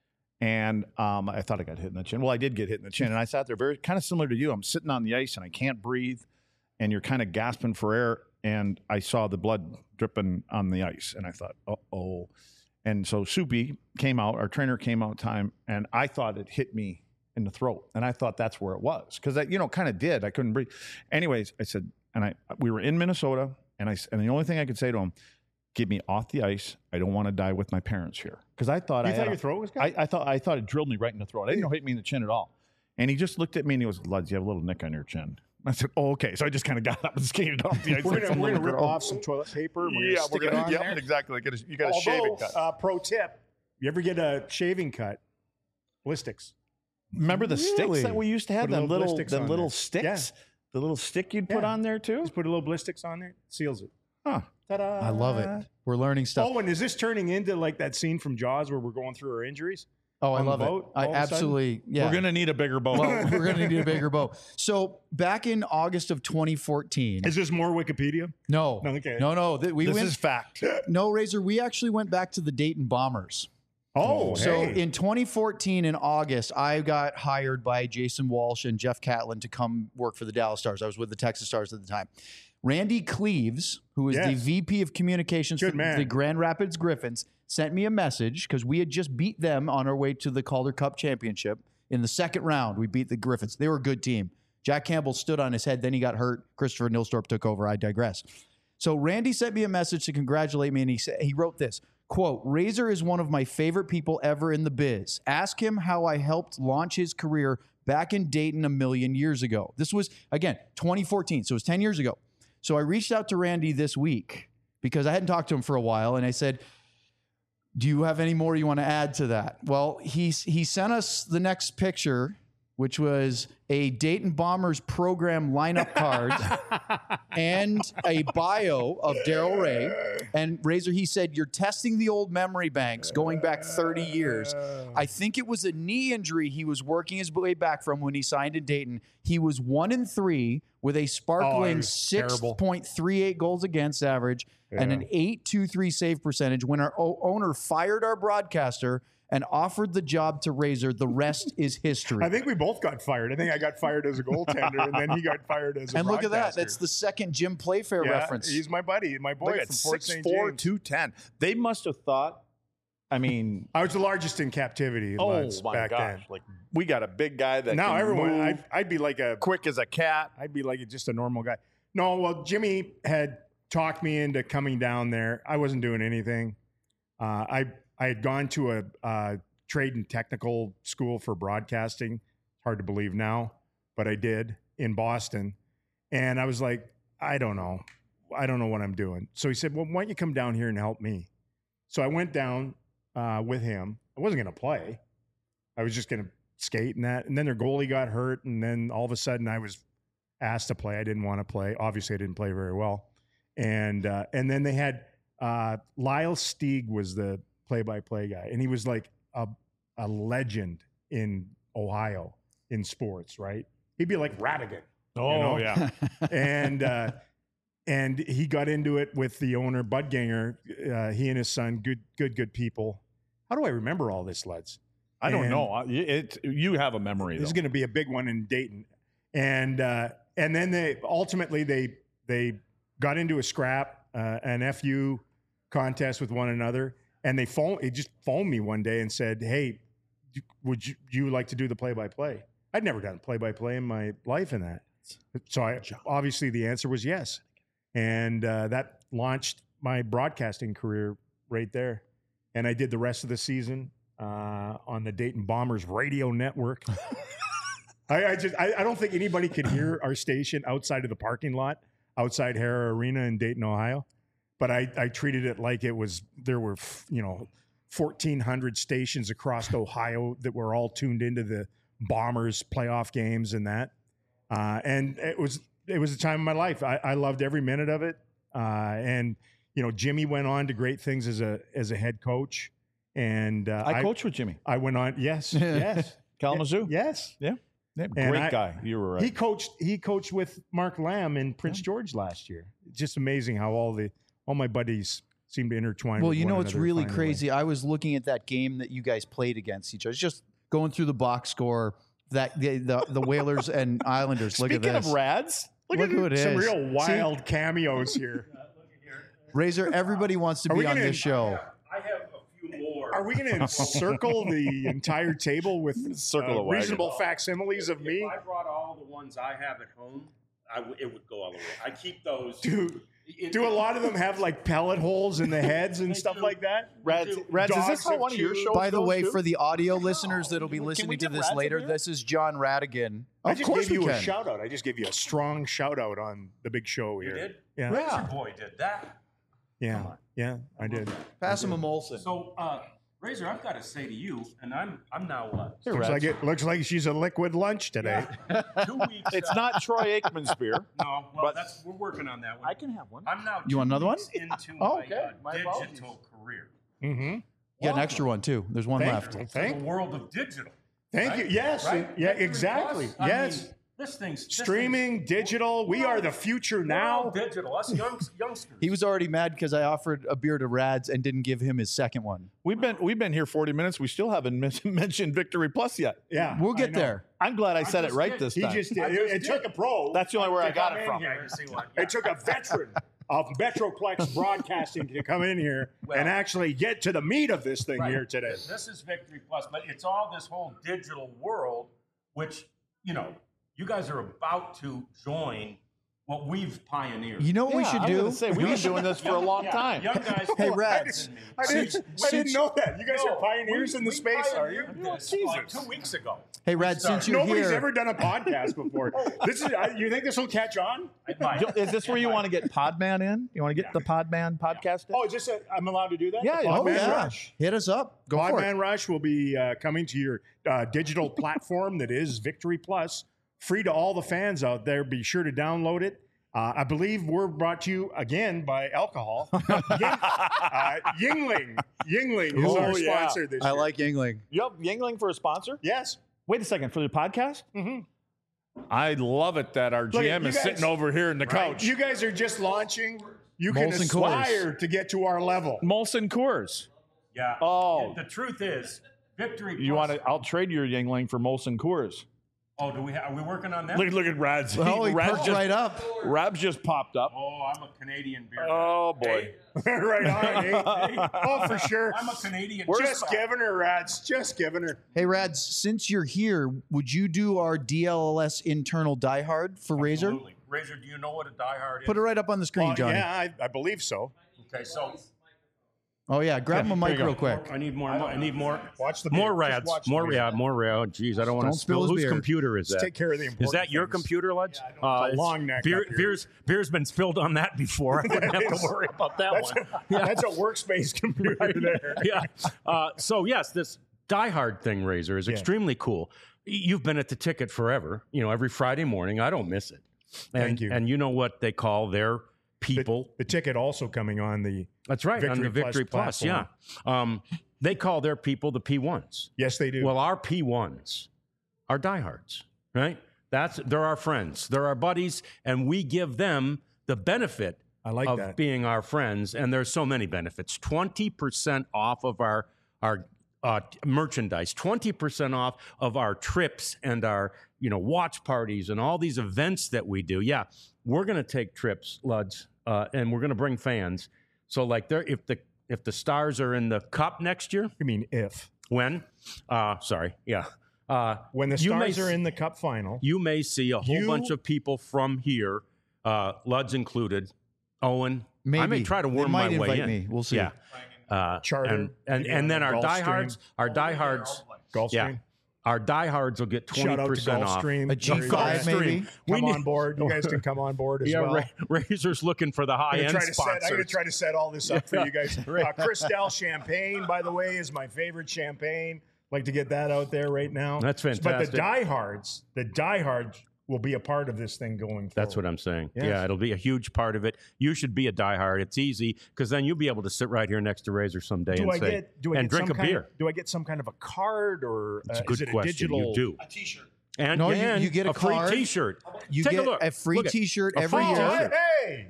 And I thought I got hit in the chin. Well, I did get hit in the chin, and I sat there very kind of similar to you. I'm sitting on the ice and I can't breathe, and you're kind of gasping for air. And I saw the blood dripping on the ice, and I thought, uh-oh. And so Soupy came out, our trainer came out time, and I thought it hit me in the throat, and I thought that's where it was because I, kind of did. I couldn't breathe. Anyways, I said, we were in Minnesota, and the only thing I could say to him, get me off the ice. I don't want to die with my parents here because I thought your throat was gone? I thought it drilled me right in the throat. I didn't know it hit me in the chin at all. And he just looked at me and he goes, "Luds, you have a little nick on your chin." I said, "Oh, okay." So I just kind of got up and skated off the ice. We're like some gonna little rip girl. off some toilet paper. And we're Yeah, gonna stick it on there. exactly. You got a shaving cut. Pro tip: you ever get a shaving cut? Ballistics. Remember the sticks that we used to have? Put a Them little little, ballistics them on little there. sticks. Yeah. The little stick you'd put Yeah. on there too. Just put a little ballistics on there. Seals it. Huh. Ta-da! I love it. We're learning stuff. Oh, and is this turning into like that scene from Jaws where we're going through our injuries? Oh, I on the love it. boat I all of a sudden? absolutely, yeah. We're gonna need a bigger boat. Well, we're going to need a bigger boat. So back in August of 2014. Is this more Wikipedia? No. Okay. No. We this went. is fact. No, Razor. We actually went back to the Dayton Bombers. Oh, So hey. in 2014, in August, I got hired by Jason Walsh and Jeff Catlin to come work for the Dallas Stars. I was with the Texas Stars at the time. Randy Cleaves, who is the Yes. VP of Communications Good for man. the Grand Rapids Griffins, sent me a message because we had just beat them on our way to the Calder Cup Championship. In the second round, we beat the Griffins. They were a good team. Jack Campbell stood on his head. Then he got hurt. Christopher Nilstorp took over. I digress. So Randy sent me a message to congratulate me, and he wrote this, quote, "Razor is one of my favorite people ever in the biz. Ask him how I helped launch his career back in Dayton a million years ago." This was, again, 2014, so it was 10 years ago. So I reached out to Randy this week because I hadn't talked to him for a while, and I said, "Do you have any more you want to add to that?" Well, he sent us the next picture, which was a Dayton Bombers program lineup card and a bio of Daryl Ray. And Razor, he said, "You're testing the old memory banks going back 30 years. I think it was a knee injury he was working his way back from when he signed in Dayton. He was 1-3 with a sparkling was terrible. 6.38 goals against average and an 8.23 save percentage. When our owner fired our broadcaster and offered the job to Razor, the rest is history." I think we both got fired. I think I got fired as a goaltender, and then he got fired as a And look at that. broadcaster. That's the second Jim Playfair Yeah, reference. He's my buddy, my boy Look at from Fort St. 6'4", James. 210. They must have thought. I mean, I was the largest in captivity lads, back then. Like we got a big guy that Now can everyone, move I'd be like a quick as a cat. I'd be like just a normal guy. No, well, Jimmy had talked me into coming down there. I wasn't doing anything. I had gone to a trade and technical school for broadcasting. Hard to believe now, but I did in Boston. And I was like, I don't know what I'm doing. So he said, "Well, why don't you come down here and help me?" So I went down with him. I wasn't going to play. I was just going to skate and that. And then their goalie got hurt. And then all of a sudden I was asked to play. I didn't want to play. Obviously, I didn't play very well. And then they had Lyle Stieg was the play-by-play guy. And he was like a legend in Ohio in sports, right? He'd be like Radigan. Oh yeah. And he got into it with the owner, Bud Ganger. He and his son, good people. How do I remember all this, Leds? I don't And know. You have a memory. This is Though. going to be a big one in Dayton. And then they ultimately they got into a scrap, an FU contest with one another, and they just phoned me one day and said, "Hey, would you like to do the play-by-play?" I'd never done play-by-play in my life in that. So obviously the answer was yes. And that launched my broadcasting career right there. And I did the rest of the season on the Dayton Bombers radio network. I don't think anybody could hear our station outside of the parking lot, outside Hara Arena in Dayton, Ohio. But I treated it like there were 1,400 stations across Ohio that were all tuned into the Bombers playoff games and that. And it was a time of my life. I loved every minute of it. And Jimmy went on to great things as a head coach. And I coached with Jimmy I went on. Yes. Kalamazoo. Yes. Yeah. And Great guy. You were right. He coached with Mark Lamb in Prince George last year. Just amazing how all my buddies seem to intertwine. Well, with you one know what's another really to find a way. crazy? I was looking at that game that you guys played against each other. Just going through the box score. That the Whalers and Islanders. Look Speaking at this. of Rads, Look who it is. Some real wild cameos here. Razor, everybody wants to Are we be on gonna- this show. I have a few more. Are we going to encircle the entire table with Circle the wagon. reasonable facsimiles of If me? I brought all the ones I have at home, it would go all the way. I keep those. Do a lot of them have like pellet holes in the heads and stuff like that? Rads, is Dogs this how have one of your chewed. shows By the goes, way, too? for the audio listeners that'll be Can we listening to get this Rads in later, here? this is John Radigan. I Of just course gave we you a can. shout out. I just gave you a strong shout out on the big show You here. did? Yeah. Razor Boy did that. Yeah. Yeah, I did. Pass him a Molson. So, Razor, I've got to say to you, and I'm now what? Here, Looks Rads. looks like she's a liquid lunch today. 2 weeks. It's not Troy Aikman's beer. No, well, but- we're working on that one. can have one. I'm now. You want 2 another one? weeks into Oh, my, okay. My apologies. digital career. Mm-hmm. Get an extra one, too. There's one left. The world of digital. Thank you. Yes. Right? Yeah, Victory exactly. Plus, I Yes. mean, this thing's Streaming, digital. We are the future now. Digital. Us youngsters. He was already mad because I offered a beer to Rads and didn't give him his second one. We've been here 40 minutes. We still haven't mentioned Victory Plus yet. Yeah. We'll I get know. there. I'm glad I said it just right did. this He time. just did. I just It took did. a pro. That's the only where I to got come it in from. here. You see what? It took a veteran of Metroplex Broadcasting to come in here and actually get to the meat of this thing Right. here today. This is Victory Plus, but it's all this whole digital world, which, you guys are about to join what we've pioneered. You know what we Yeah, should I was do? gonna say, we've been doing this for a long time. Young guys. Hey, more Rads. than me. I didn't know that. You guys are pioneers in the space, are you? pioneered this like 2 weeks ago. Hey, Rads, since you're Nobody's here, ever done a podcast before. This is. You think this will catch on? Is this where you want to get Podman in? You want to get the Podman podcast in? Oh, is this? I'm allowed to do that? Yeah, The oh, Podman yeah, Rush. hit us up. Go for it. Podman Rush will be coming to your digital platform that is Victory Plus, free to all the fans out there. Be sure to download it. I believe we're brought to you again by alcohol. Yingling. Yingling is Oh, our yeah. sponsor this I year. like Yingling. Yep, Yingling for a sponsor. Yes. Wait a second, for the podcast? Mhm. I love it that our Look, GM you is guys- sitting over here in the couch. You guys are just launching. You can Molson aspire to get to our level. Molson Coors. Yeah. Oh. The truth is, Victory You Plus. want to? I'll trade your Yingling for Molson Coors. Oh, are we working on that? Look at Rads. Oh, he Rads perked just, right up. Rads just popped up. Oh, I'm a Canadian beer. Oh boy. Right on. eh? Oh, for sure. I'm a Canadian. Just giving her, Rats. Just giving her. Hey, Rads, since you're here, would you do our DLLS internal diehard for Razor? Absolutely. Razor, do you know what a diehard is? Put it right up on the screen, Johnny. Yeah, I believe so. Okay, so Oh, yeah. Grab him a mic you go. real quick. I need more. I need more. Watch the More video. Just rads. watch the More video. rad. More rad. Jeez, I don't want Don't to spill spill. his Whose beer. computer is Just that? take care of the important Is that your things. computer, Luds? It's a long neck Beer, up here. beer's been spilled on that before. I wouldn't have is. to worry about that That's one. that's a workspace computer there. Yeah. So yes, this Die Hard thing, Razor, is extremely cool. You've been at the ticket forever. Every Friday morning. I don't miss it. And, Thank you. And you know what they call their people? The ticket also coming on the. That's right, on the Victory Plus. Yeah. They call their people the P1s. Yes, they do. Well, our P1s are diehards, right? They're our friends, they're our buddies, and we give them the benefit I like of that. being our friends. And there's so many benefits: 20% off of our merchandise, 20% off of our trips and our watch parties and all these events that we do. Yeah, we're going to take trips, Luds, and we're going to bring fans. So like, if the Stars are in the Cup next year, I mean, if when? Sorry, yeah. when the You may Stars are s- in the Cup final, You may see a whole bunch of people from here, Luds included. Owen, Maybe. I may try to They worm might my way invite in. me. We'll see. Yeah. Charter, and then our Gulfstream. diehards, Gulfstream. yeah, our diehards will get Shout out to 20% off. Gulfstream. A G5 maybe? Come We on board. You guys can come on board as Yeah, well. Razor's looking for the high I'm end gonna sponsors. try to set all this up for you guys. Cristal Champagne, by the way, is my favorite champagne. Like to get that out there right now. That's But fantastic. the diehards will be a part of this thing going forward. That's what I'm saying. Yes. Yeah, it'll be a huge part of it. You should be a diehard. It's easy because then you'll be able to sit right here next to Razor someday Do I and get drink some a beer. do I get some kind of a card or It's a is good it a question. digital? You do. A T-shirt. And, No, and you get a free card. T-shirt. You Take get a look. a free Look at- T-shirt a every free year. T-shirt. Hey,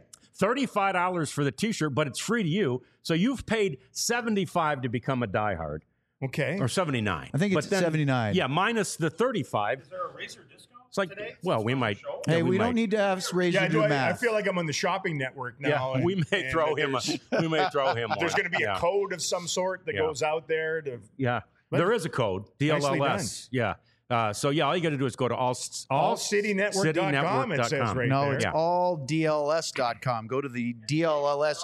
$35 for the T-shirt, but it's free to you. So you've paid $75 to become a diehard, okay. or $79. I think it's But then- $79. Yeah, minus the $35. Is there a Razor discount? It's like, well, we might. Hey, yeah, we don't might. need to have Razor Yeah, do I math. feel like I'm on the shopping network now. Yeah, we may and throw him. We may throw him. There's one. going to be Yeah. a code of some sort that Yeah. goes out there to. Yeah, there is a code, Nicely DLLS. Yeah. So yeah, all you got to do is go to allcitynetwork.com. It says right No, there. it's Yeah. alldls.com. Go to the DLLS.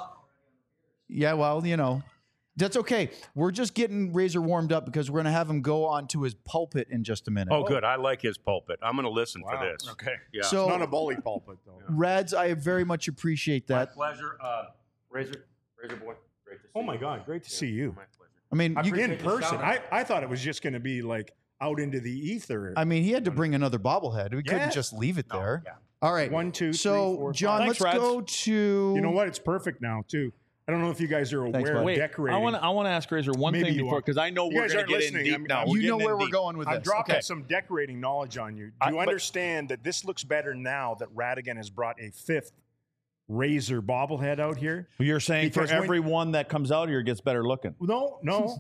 Yeah, well, that's okay. We're just getting Razor warmed up because we're going to have him go on to his pulpit in just a minute. Oh, good. I like his pulpit. I'm going to listen for this. Okay. Yeah. So, Not a bully pulpit, though. Reds, I very much appreciate My that. pleasure. Razor boy. Great to see Oh, my you. God. Great to see you. My pleasure. I mean, I you, appreciate In the person. shout-out. I thought it was just going to be like out into the ether. I mean, he had to bring another bobblehead. We Yeah. couldn't just leave it there. yeah. All right. 1, 2, 3, So, 4, John, 5. let's Thanks, Reds. go to. You know what? It's perfect now, too. I don't know if you guys are Thanks, aware bud. of Wait, decorating. I want to ask Razor one Maybe thing you before, are. because I know You we're guys going to aren't get in listening. deep I'm- now. I'm- We're You know getting where in we're deep. going with I'm this. dropping Okay. some decorating knowledge on you. Do you but- understand that this looks better now that Radigan has brought a 5th Razor bobblehead out here? You're saying for Because when- every one that comes out here gets better looking. No.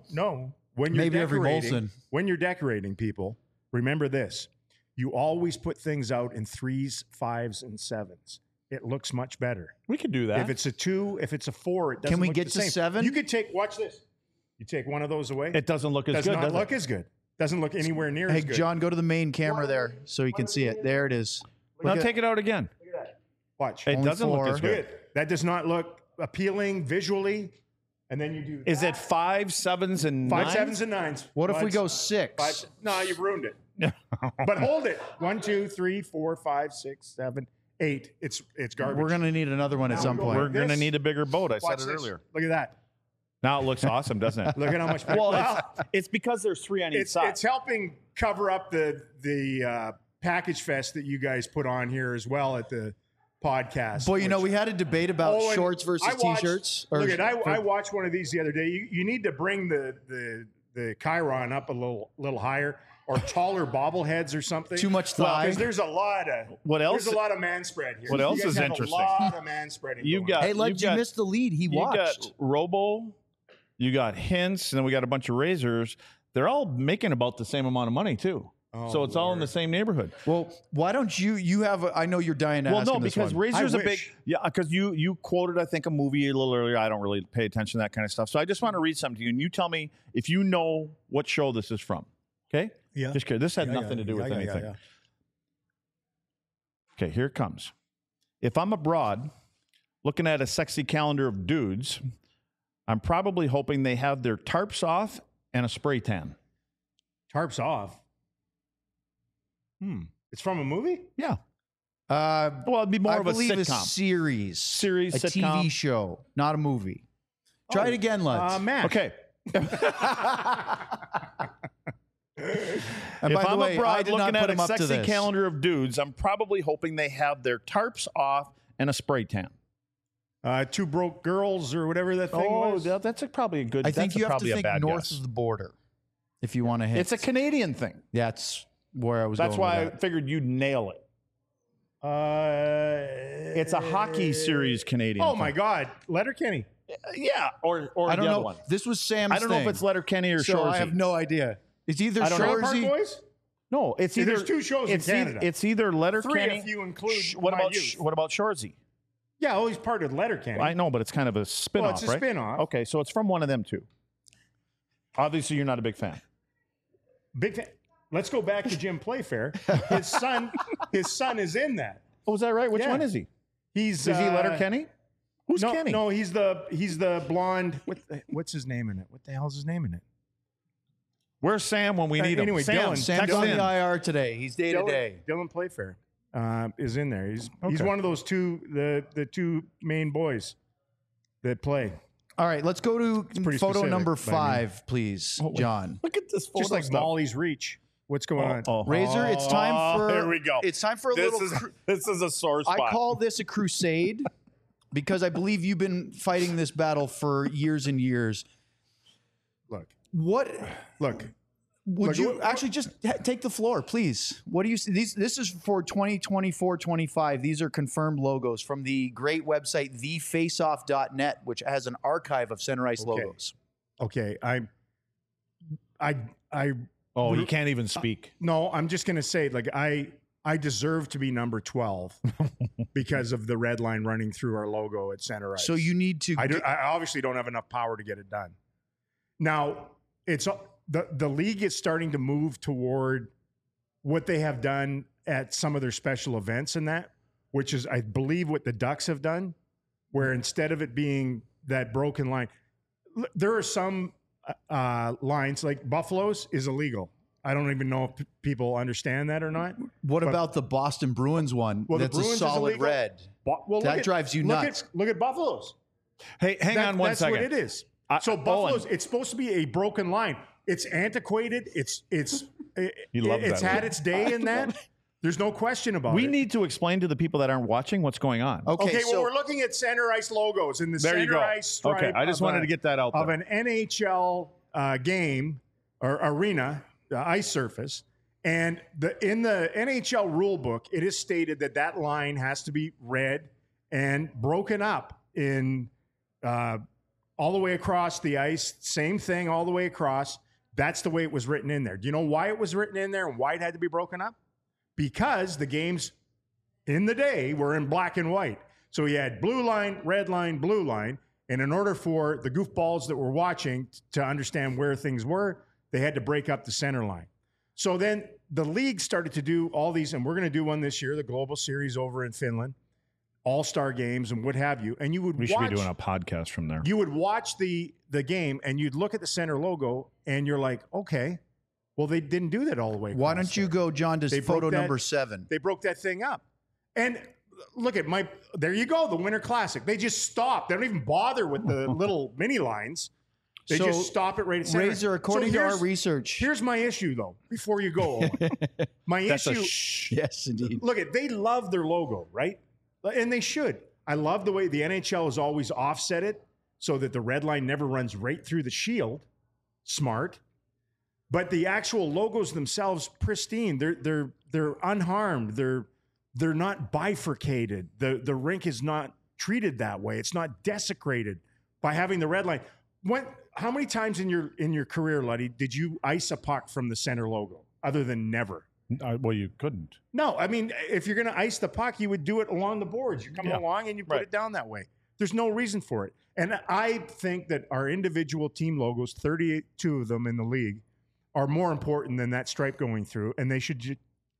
When you're Maybe every decorating, Molson. when you're decorating, people, remember this: you always put things out in 3s, 5s, and 7s. It looks much better. We could do that. If it's a 2, if it's a 4, it doesn't Can we look get the to same. 7? You could take. Watch this. You take one of those away. it doesn't look as does good, not does look it? as good. Doesn't look anywhere near Hey, as good. John, go to the main camera there so you can see it. There it is. Now Look at- take it out again. Watch. It Only doesn't look 4. as Look good. at it. That does not look appealing visually. And then you do Is it 5, 7s, and 5, 9s? 7s, and 9s. What if we Watch. go 6? 5? No, you've ruined it. But hold it. 1, 2, 3, 4, 5, 6, 7, 8. It's garbage. We're going to need another one at Now some go point. We're going to This- need a bigger boat. I Watch said it this. earlier. Look at that. Now it looks awesome, doesn't it? Look at how much. Well, it's because there's 3 on each side. it's helping cover up the package fest that you guys put on here as well at the podcast. Boy, which- we had a debate about Oh, and shorts versus I watched- t-shirts. Look at I watched one of these the other day. You need to bring the Chiron up a little higher or taller bobbleheads or something. Too much thigh. Because there's a lot of What there's a lot of man spread here. What You else guys is have interesting? A lot of man spreading. You've going got- on. Hey, Ledge, you got- missed the lead. He You watched. got Robo, you got Hints, and then we got a bunch of Razors. They're all making about the same amount of money too. So it's all in the same neighborhood. Well, why don't you have I know you're dying to Well, ask no, him this because one. Razor's I a big wish. because you quoted I think a movie a little earlier. I don't really pay attention to that kind of stuff, so I just want to read something to you, and you tell me if you know what show this is from. Okay? Yeah. Just kidding. This had nothing to do with anything. Okay, here it comes. If I'm abroad looking at a sexy calendar of dudes, I'm probably hoping they have their tarps off and a spray tan. Tarps off. It's from a movie? Yeah. Well, it'd be more I of a believe a sitcom. series, a sitcom. TV show, not a movie. Try it again, Ledge. Matt. Okay. and If by the I'm way, I abroad did not looking put at him a up to sexy this. calendar of dudes, I'm probably hoping they have their tarps off and a spray tan. 2 Broke Girls or whatever that thing was. That's probably a good. I think that's you have to probably a think bad north guess. of the border if you want to hit. It's a Canadian thing. That's where I was. That's going why I with that. figured you'd nail it. It's a hockey series Canadian. Oh thing. my God, Letterkenny. Yeah, or I don't the know. other one. This was Sam's. I don't know if thing, it's Letterkenny or so Shoresy. I have no idea. It's either I don't know. Trailer Park Shoresy. Boys. No, it's See, either there's 2 shows in it's Canada. It's either Letterkenny. 3 if you include what my about youth. what about Shoresy? Yeah, well, he's part of Letterkenny. I know, but it's kind of a spin-off, Well, it's a right? spin-off. Okay, so it's from one of them too. Obviously, you're not a big fan. Big fan. Let's go back to Jim Playfair. His son is in that. Oh, is that right? Which Yeah. one is he? Is Is he Letterkenny? Who's no, Kenny? No, he's the blonde. What's his name in it? What the hell's his name in it? Where's Sam when we need anyway, him? Sam, Dylan. Sam's text on in. the IR today. He's day to Dylan, day. Dylan Playfair is in there. He's Okay. one of those the 2 main boys that play. All right, let's go to pretty photo specific, number but I mean- 5, please, John. Look at this photo Just like stuff. Molly's Reach. What's going on? Oh, Razor, it's time for. Here we go. It's time for a This little. is this is a sore spot. I call this a crusade because I believe you've been fighting this battle for years and years. Look, What? look. Would Like, you what- actually just take the floor, please? What do you see? This is for 2024-25. These are confirmed logos from the great website, thefaceoff.net, which has an archive of Center Ice Okay. logos. Okay, Oh, you can't even speak. no, I'm just gonna say, like, I deserve to be number 12 because of the red line running through our logo at Center Ice. So you need to. I obviously don't have enough power to get it done. Now, it's the league is starting to move toward what they have done at some of their special events and that, which is, I believe, what the Ducks have done, where instead of it being that broken line, there are some lines like Buffalo's is illegal. I don't even know if people understand that or not. What about the Boston Bruins one? Well, the that's Bruins a is solid illegal. red. Well, That drives you nuts. Look at Buffalo's. Hey, hang on one that's second. what it is. So Owen. Buffalo's, it's supposed to be a broken line. It's antiquated. It's loves it's that had word. its day in that. There's no question about We it. need to explain to the people that aren't watching what's going on. Okay, Okay, so well, we're looking at Center Ice logos in the There you Center go. Ice stripe. Okay, I just of wanted to get that out of there. an NHL game or arena, the ice surface. And in the NHL rule book, it is stated that that line has to be red and broken up in all the way across the ice. Same thing all the way across. That's the way it was written in there. Do you know why it was written in there and why it had to be broken up? Because the games in the day were in black and white. So you had blue line, blue line. And in order for the goofballs that were watching to understand where things were, they had to break up the center line. So then the league started to do all these, and we're going to do one this year, the Global Series over in Finland, all-star games and what have you. And you would We should watch, be doing a podcast from there. you would watch the game and you'd look at the center logo and you're like, okay, well, they didn't do that all the way. why across don't you there. go, John, to They broke photo that- number 7? They broke that thing up. And look at there you go, the Winter Classic. They just stop. They don't even bother with the little mini lines. They So, just stop it right at center. Razor, according So to our here's- research. Here's my issue, though, before you go, Owen. My That's a issue, shh. Yes, indeed. look at, they love their logo, right? And they should. I love the way the NHL has always offset it so that the red line never runs right through the shield. Smart. But the actual logos themselves, pristine. They're unharmed. They're not bifurcated. The rink is not treated that way. It's not desecrated by having the red line. How many times in your career, Luddy, did you ice a puck from the center logo other than never? Well, you couldn't. No, I mean, if you're going to ice the puck, you would do it along the boards. You come Yeah, along and you put right. it down that way. There's no reason for it. And I think that our individual team logos, 32 of them in the league, are more important than that stripe going through, and they should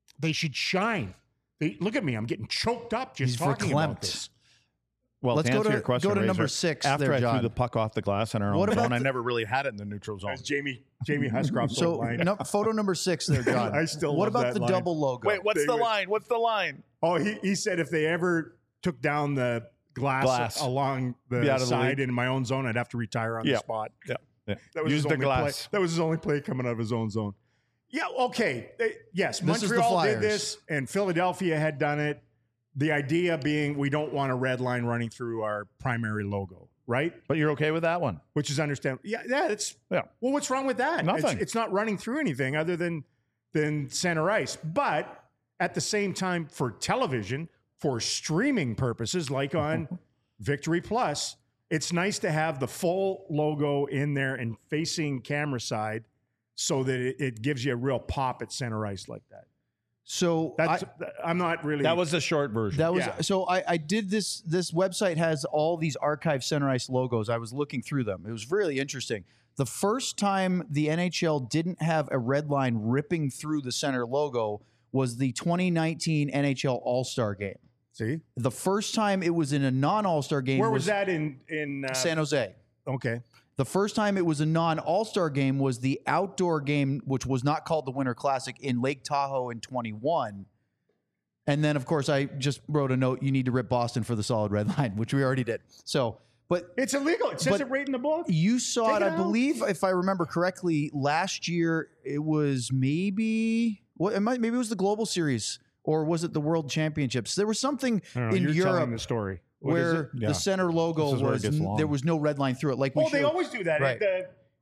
shine. Look at me, I'm getting choked up just He's talking about verklempt. this. Well, Let's to go answer to- your question, go to Razor, number 6 After there, I John. threw the puck off the glass in our What own about zone, I the- never really had it in the neutral zone. That's Jamie Huscroft's So, old line. no, photo number 6 there, John. I still What love about that the line. double logo? Wait, what's They the would- line? What's the line? Oh, he said if they ever took down the glass. along Be the out of the side league. in my own zone, I'd have to retire on Yeah. the spot. Yeah. That was Use his the only glass. Play. That was his only play coming out of his own zone. Yeah, okay. Yes, This is the Montreal did Flyers. this, and Philadelphia had done it. The idea being we don't want a red line running through our primary logo, right? But you're okay with that one? Which is understandable. Yeah, it's Yeah. Well, what's wrong with that? Nothing. It's not running through anything other than center ice. But at the same time, for television, for streaming purposes, like on Victory Plus, it's nice to have the full logo in there and facing camera side so that it gives you a real pop at center ice like that. So I'm not really. That was the short version. that was Yeah. so I did this. This website has all these archive Center Ice logos. I was looking through them. It was really interesting. The first time the NHL didn't have a red line ripping through the center logo was the 2019 NHL All-Star Game. See, The first time it was in a non-All-Star game where was that in San Jose. Okay. The first time it was a non-All-Star game was the outdoor game, which was not called the Winter Classic, in Lake Tahoe in 21. And then, of course, I just wrote a note, you need to rip Boston for the solid red line, which we already did. So, but It's illegal. It says But it right in the book. you saw Take it, it I out. believe, if I remember correctly, last year it was maybe maybe it was the Global Series or was it the World Championships? There was something I don't know, in you're telling Europe the story. What is where it? Yeah. the center logo This is where it was gets long. there was no red line through it. Like we Well, they showed. always do that. Right.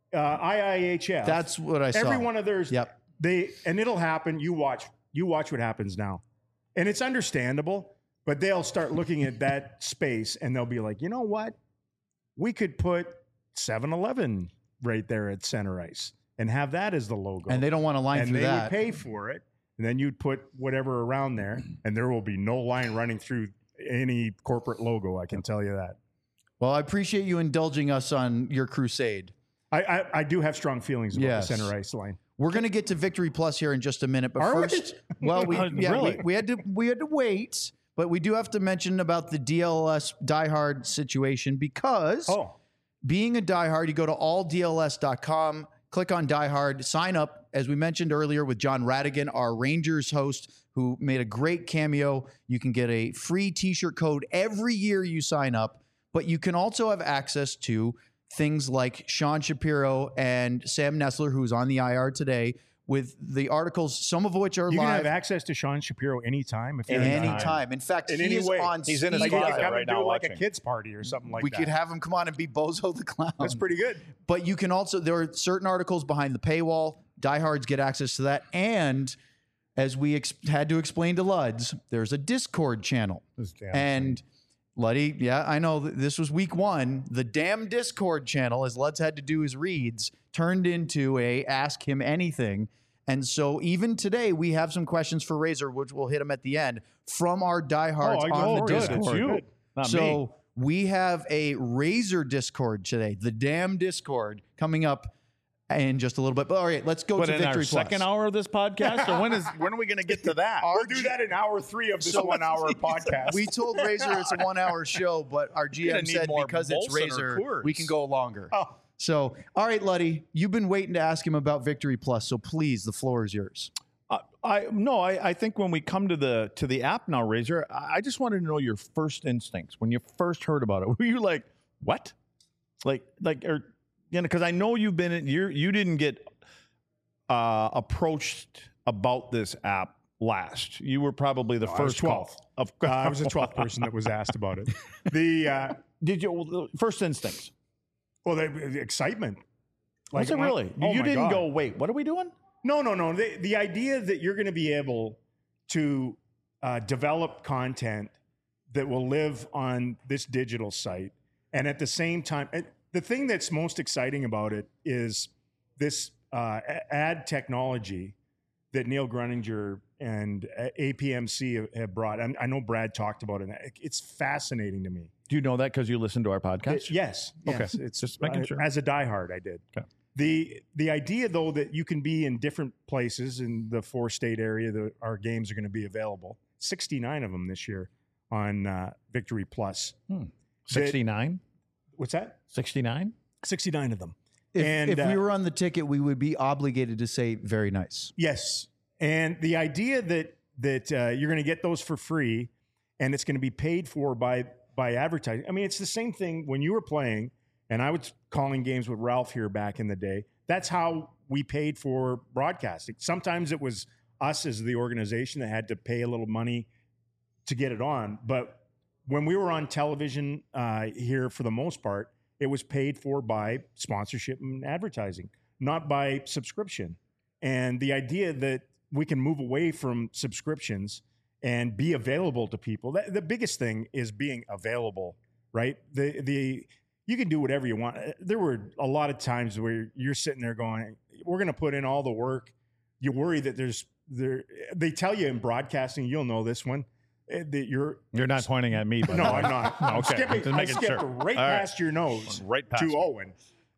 IIHF. That's what I saw. Every one of theirs. Yep. It'll happen. You watch what happens now. And it's understandable, but they'll start looking at that space and they'll be like, you know what? We could put 7-Eleven right there at center ice and have that as the logo. And they don't want to line and through they that. would pay for it. And then you'd put whatever around there, and there will be no line running through any corporate logo. I can tell you that. Well, I appreciate you indulging us on your crusade. I do have strong feelings about Yes. the center ice line. We're going to get to Victory Plus here in just a minute, but Are we? first, well, Really? we had to wait, but we do have to mention about the DLS diehard situation because being a diehard, you go to alldls.com, click on diehard, sign up, as we mentioned earlier with John Radigan, our Rangers host, who made a great cameo. You can get a free t-shirt code every year you sign up, but you can also have access to things like Sean Shapiro and Sam Nessler, who's on the IR today, with the articles, some of which are You can live have access to Sean Shapiro anytime if you're in anytime. In fact, In he any is way. on He's in his speed closet dial. come right and now do like a watching. kids party or something like We that. could have him come on and be Bozo the Clown. That's pretty good. But you can also, there are certain articles behind the paywall. Diehards get access to that. And as we had to explain to Luds, there's a Discord channel. And Luddy, yeah, I know this was week one. The damn Discord channel, as Luds had to do his reads, turned into a Ask Him Anything. And so even today, we have some questions for Razor, which we'll hit them at the end, from our diehards on the good. Discord. It's you. Not me. So we have a Razor Discord today, the damn Discord, coming up in just a little bit. But all right, let's go But to in Victory our second hour of this podcast, or when are we going to get to that? We'll do that in hour 3 of this 1 hour podcast. We told Razor it's a 1 hour show, but our gonna GM need said more because it's Molson or Razor, Coors. we can go longer. Oh. So, all right, Luddy, you've been waiting to ask him about Victory Plus, so please, the floor is yours. I think when we come to the app now, Razor, I just wanted to know your first instincts when you first heard about it. Were you like, what? Like, or because I know you've been you didn't get approached about this app last. You were probably the first 12th. I was the 12th person that was asked about it. Did you first instincts? Well, the excitement. Was it really? Oh You my didn't God. go, wait, what are we doing? No. The idea that you're going to be able to develop content that will live on this digital site, and at the same time, the thing that's most exciting about it is this ad technology that Neil Gruninger and APMC have brought. I know Brad talked about it. It's fascinating to me. Do you know that because you listened to our podcast? Yes. Okay. It's Just making sure. As a diehard, I did. Okay. The idea, though, that you can be in different places in the 4-state area that our games are going to be available, 69 of them this year on Victory Plus. 69? What's that? 69? 69 of them. If we were on the ticket, we would be obligated to say very nice. Yes. And the idea that you're going to get those for free and it's going to be paid for by advertising. I mean, it's the same thing when you were playing and I was calling games with Ralph here back in the day. That's how we paid for broadcasting. Sometimes it was us as the organization that had to pay a little money to get it on. But when we were on television here, for the most part, it was paid for by sponsorship and advertising, not by subscription. And the idea that we can move away from subscriptions and be available to people. The biggest thing is being available, right? You can do whatever you want. There were a lot of times where you're sitting there going, we're going to put in all the work. You worry that they tell you in broadcasting, you'll know this one, that you're not pointing at me, but no, I'm not. I'm Okay. skipping, Just I making skipped sure. right All right. past your nose Right past to me. Owen.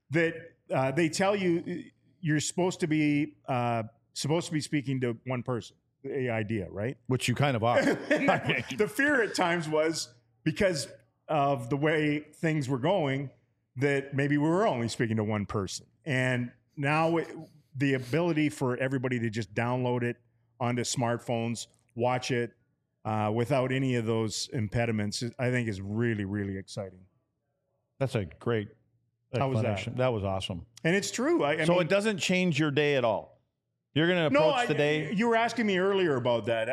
That they tell you you're supposed to be speaking to one person. The idea, right? which you kind of are. The fear at times was because of the way things were going that maybe we were only speaking to one person. And now the ability for everybody to just download it onto smartphones, watch it without any of those impediments, I think is really, really exciting. That's a great How was that? explanation. That was awesome. And it's true. I So mean, it doesn't change your day at all. You're going to approach the day. You were asking me earlier about that.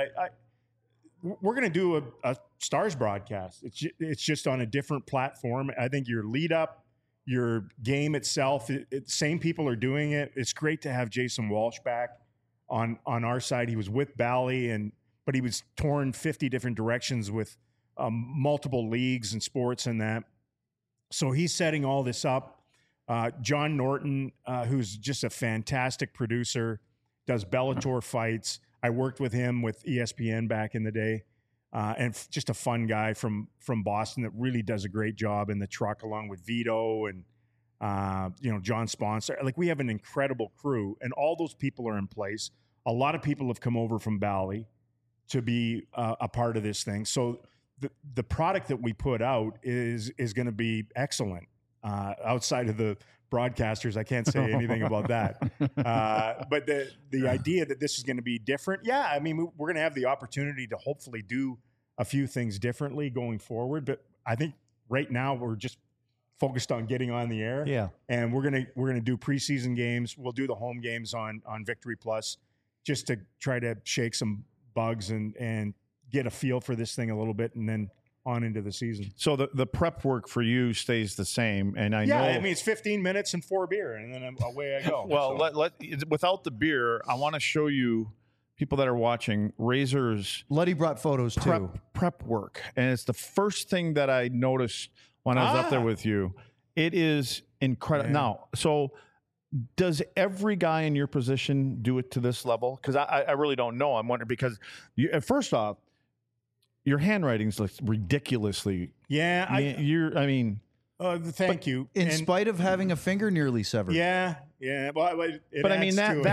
We're going to do a Stars broadcast. It's just on a different platform. I think your lead up, your game itself. Same people are doing it. It's great to have Jason Walsh back on our side. He was with Bally, but he was torn 50 different directions with multiple leagues and sports and that. So he's setting all this up. John Norton, who's just a fantastic producer, does Bellator fights. I worked with him with ESPN back in the day, and just a fun guy from Boston that really does a great job in the truck, along with Vito and John Sponsor. Like, we have an incredible crew, and all those people are in place. A lot of people have come over from Bally to be a part of this thing. So the product that we put out is going to be excellent. Outside of the broadcasters, I can't say anything about that. But the idea that this is going to be different, yeah, I mean, we're going to have the opportunity to hopefully do a few things differently going forward. But I think right now we're just focused on getting on the air. Yeah. And we're gonna do preseason games. We'll do the home games on Victory Plus, just to try to shake some bugs and get a feel for this thing a little bit, and then on into the season. So the prep work for you stays the same, and I know. Yeah, I mean, it's 15 minutes and 4 beer, and then away I go. Well, So. without the beer, I want to show you, people that are watching, Razor's Luddy brought photos too. prep work, and it's the first thing that I noticed when I was up there with you. It is incredible. Yeah. Now, so does every guy in your position do it to this level? Because I really don't know. I'm wondering, because first off, your handwriting's like ridiculously. Yeah, Thank you. In spite of having a finger nearly severed. Yeah. Well, But I mean,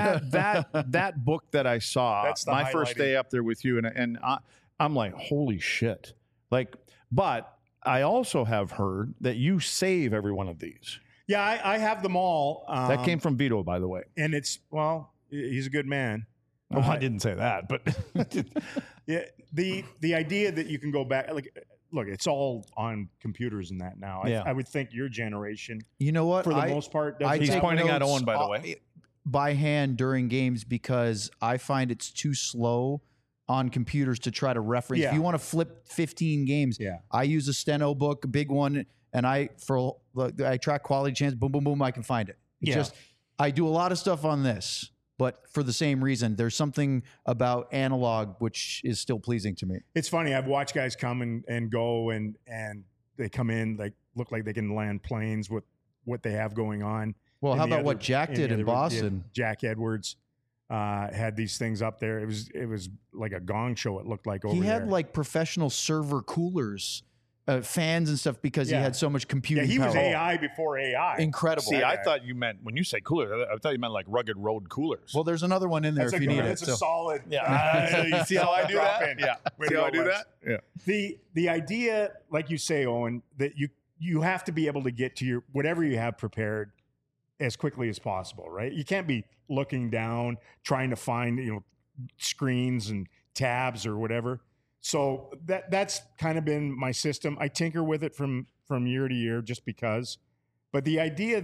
that book that I saw, That's the my first highlighting. day up there with you, and I'm like, holy shit! Like, but I also have heard that you save every one of these. Yeah, I have them all. That came from Vito, by the way. and he's a good man. Oh, I didn't say that, but Yeah, the idea that you can go back, like, look, it's all on computers and that now. Yeah. I would think your generation, You know what? for the most part, does He's take pointing at notes Owen, by the way. by hand during games because I find it's too slow on computers to try to reference. Yeah. If you want to flip 15 games, Yeah. I use a steno book, a big one, and I track quality chance. Boom, boom, boom. I can find it. Yeah. I do a lot of stuff on this, but for the same reason, there's something about analog which is still pleasing to me. It's funny. I've watched guys come and go, and they come in, like, look like they can land planes with what they have going on. Well, And how the about what other- Jack and did the in other- yeah, Boston? Jack Edwards had these things up there. It was like a gong show. It looked like over He had there. like professional server coolers, fans and stuff because Yeah. he had so much Yeah, computing he was power. AI before AI. Incredible. See, I thought you meant, when you say cooler, I thought you meant like rugged road coolers. Well, there's another one in there That's if a you need it. It's a So. solid. You see how I do drop that? in. Yeah. Way See to how I go, do Lex. that? Yeah. The idea, like you say, Owen, that you have to be able to get to your whatever you have prepared as quickly as possible, right? You can't be looking down trying to find screens and tabs or whatever. So that's kind of been my system. I tinker with it from year to year just because. But the idea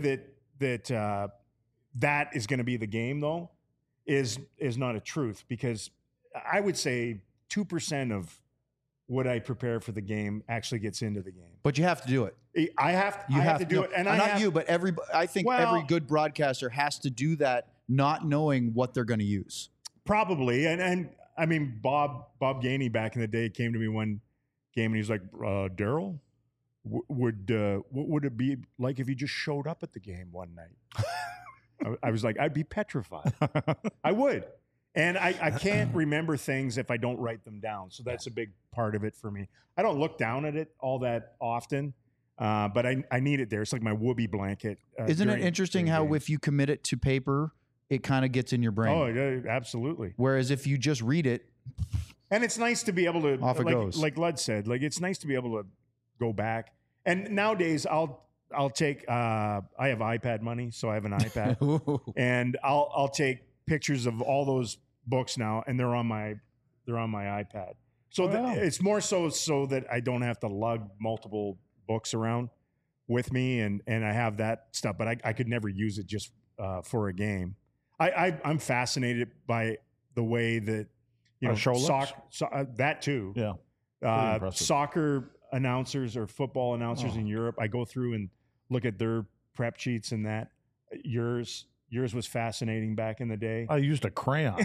that is going to be the game, though, is not a truth, because I would say 2% of what I prepare for the game actually gets into the game. But you have to do it. I have to do no, it, and not you, but I think Well- every good broadcaster has to do that, not knowing what they're going to use. probably. And I mean, Bob Gainey back in the day came to me one game and he's like, Daryl, what would it be like if you just showed up at the game one night? I was like, I'd be petrified. I would. And I can't remember things if I don't write them down. So that's a big part of it for me. I don't look down at it all that often, but I need it there. It's like my whoopee blanket. Isn't it during interesting how games. if you commit it to paper, it kind of gets in your brain? Oh, yeah, absolutely. Whereas if you just read it, And it's nice to be able to, Off it goes. like Lud said, like it's nice to be able to go back. And nowadays, I'll take. I have iPad money, so I have an iPad, and I'll take pictures of all those books now, and they're on my iPad. So it's more so that I don't have to lug multiple books around with me, and I have that stuff. But I could never use it just for a game. I'm fascinated by the way that show looks? that too. Yeah. Impressive. Soccer announcers or football announcers in Europe, I go through and look at their prep sheets and that. Yours was fascinating back in the day. I used a crayon.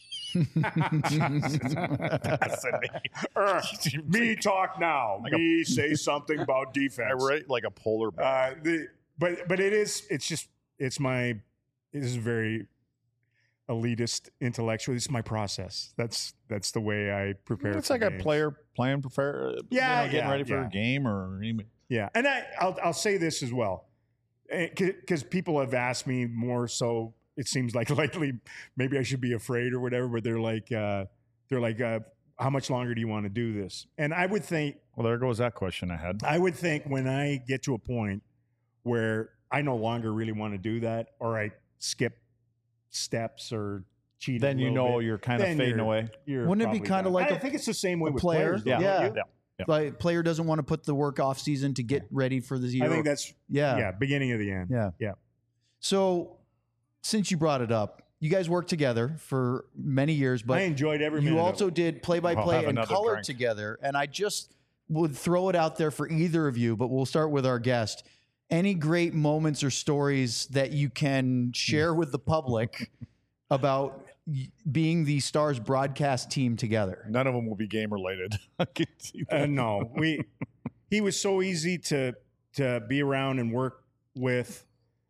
Me talk now. Me say something about defense. I write like a polar bear. But it's very elitist intellectual. This is my process. That's the way I prepare. It's for like games. a player playing, getting ready for a game or anything. Yeah, and I'll say this as well, because people have asked me more so. It seems like lately, maybe I should be afraid or whatever. But they're like, how much longer do you want to do this? And I would think, Well, there goes that question I had. I would think when I get to a point where I no longer really want to do that, or I skip steps or cheat, Then you know you're kind of fading away. Wouldn't it be kind of like I think it's the same way with player? players. though, Yeah. don't you? Yeah. Like player doesn't want to put the work off season to get ready for the year. I think that's beginning of the end. Yeah. So since you brought it up, you guys worked together for many years, but I enjoyed every minute you of also it. did play-by-play have and another color drink. together. And I just would throw it out there for either of you, but we'll start with our guest. Any great moments or stories that you can share with the public about being the Stars broadcast team together? None of them will be game related. I can see that. No, he was so easy to be around and work with.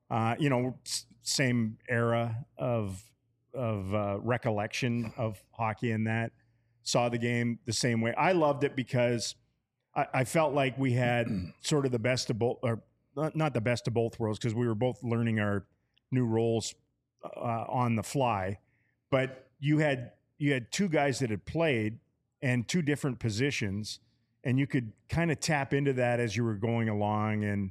Same era of recollection of hockey, and that saw the game the same way. I loved it because I felt like we had sort of the best of both, or not the best of both worlds, because we were both learning our new roles on the fly. But you had two guys that had played and two different positions, and you could kind of tap into that as you were going along. And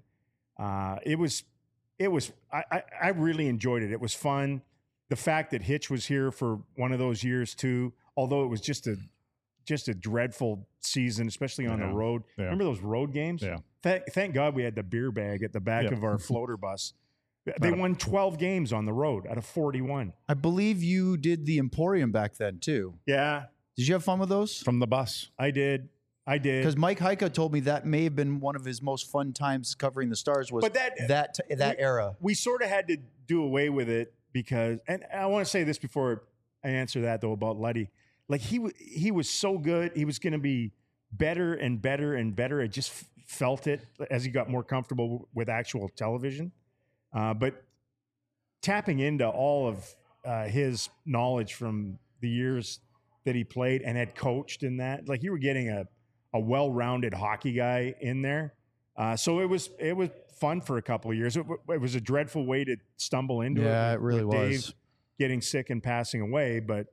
I really enjoyed it. It was fun. The fact that Hitch was here for one of those years too, although it was just a dreadful season, especially on the road. Yeah. Remember those road games? Yeah. Thank God we had the beer bag at the back of our floater bus. They won 12 games on the road out of 41. I believe you did the Emporium back then too. Yeah, Did you have fun with those? From the bus. I did. Because Mike Heika told me that may have been one of his most fun times covering the Stars was But that era. We sort of had to do away with it because, and I want to say this before I answer that though about Luddy. Like he was so good. He was going to be better and better and better. I just felt it as he got more comfortable with actual television. But tapping into all of his knowledge from the years that he played and had coached in that, like you were getting a well-rounded hockey guy in there. So it was fun for a couple of years. It was a dreadful way to stumble into it. Yeah, it really with was. Dave getting sick and passing away, but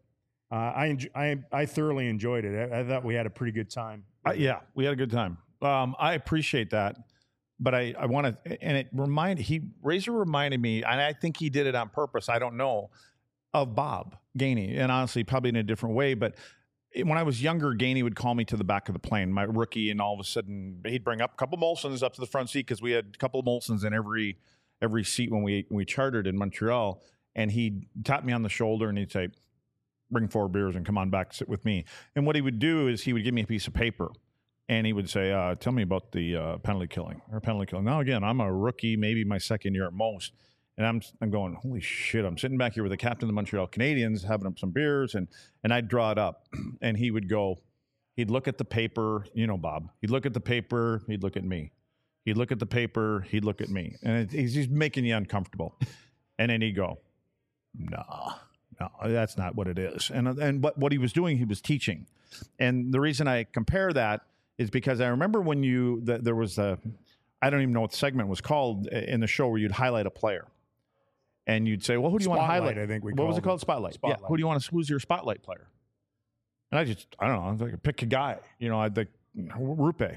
I thoroughly enjoyed it. I thought we had a pretty good time. Yeah, we had a good time. I appreciate that, but I want to, and Razor reminded me, and I think he did it on purpose. I don't know, of Bob Gainey, and honestly, probably in a different way. But when I was younger, Gainey would call me to the back of the plane, my rookie, and all of a sudden he'd bring up a couple Molsons up to the front seat because we had a couple of Molsons in every seat when we chartered in Montreal, and he'd tap me on the shoulder and he'd say, "Bring 4 beers and come on back, sit with me." And what he would do is he would give me a piece of paper and he would say, "Tell me about the penalty killing." Now, again, I'm a rookie, maybe my second year at most. And I'm going, holy shit, I'm sitting back here with the captain of the Montreal Canadiens, having up some beers, and I'd draw it up. And he would go, he'd look at the paper, Bob. He'd look at the paper, he'd look at me. He'd look at the paper, he'd look at me. And he's making you uncomfortable. And then he'd go, no, that's not what it is. And what he was doing, he was teaching. And the reason I compare that is because I remember when there was I don't even know what the segment was called in the show where you'd highlight a player. And you'd say, well, who do you want to highlight? I think what was it called? Spotlight. Yeah. Who do you want to? Who's your spotlight player? And I don't know. I was like, pick a guy. I'd like Rupe.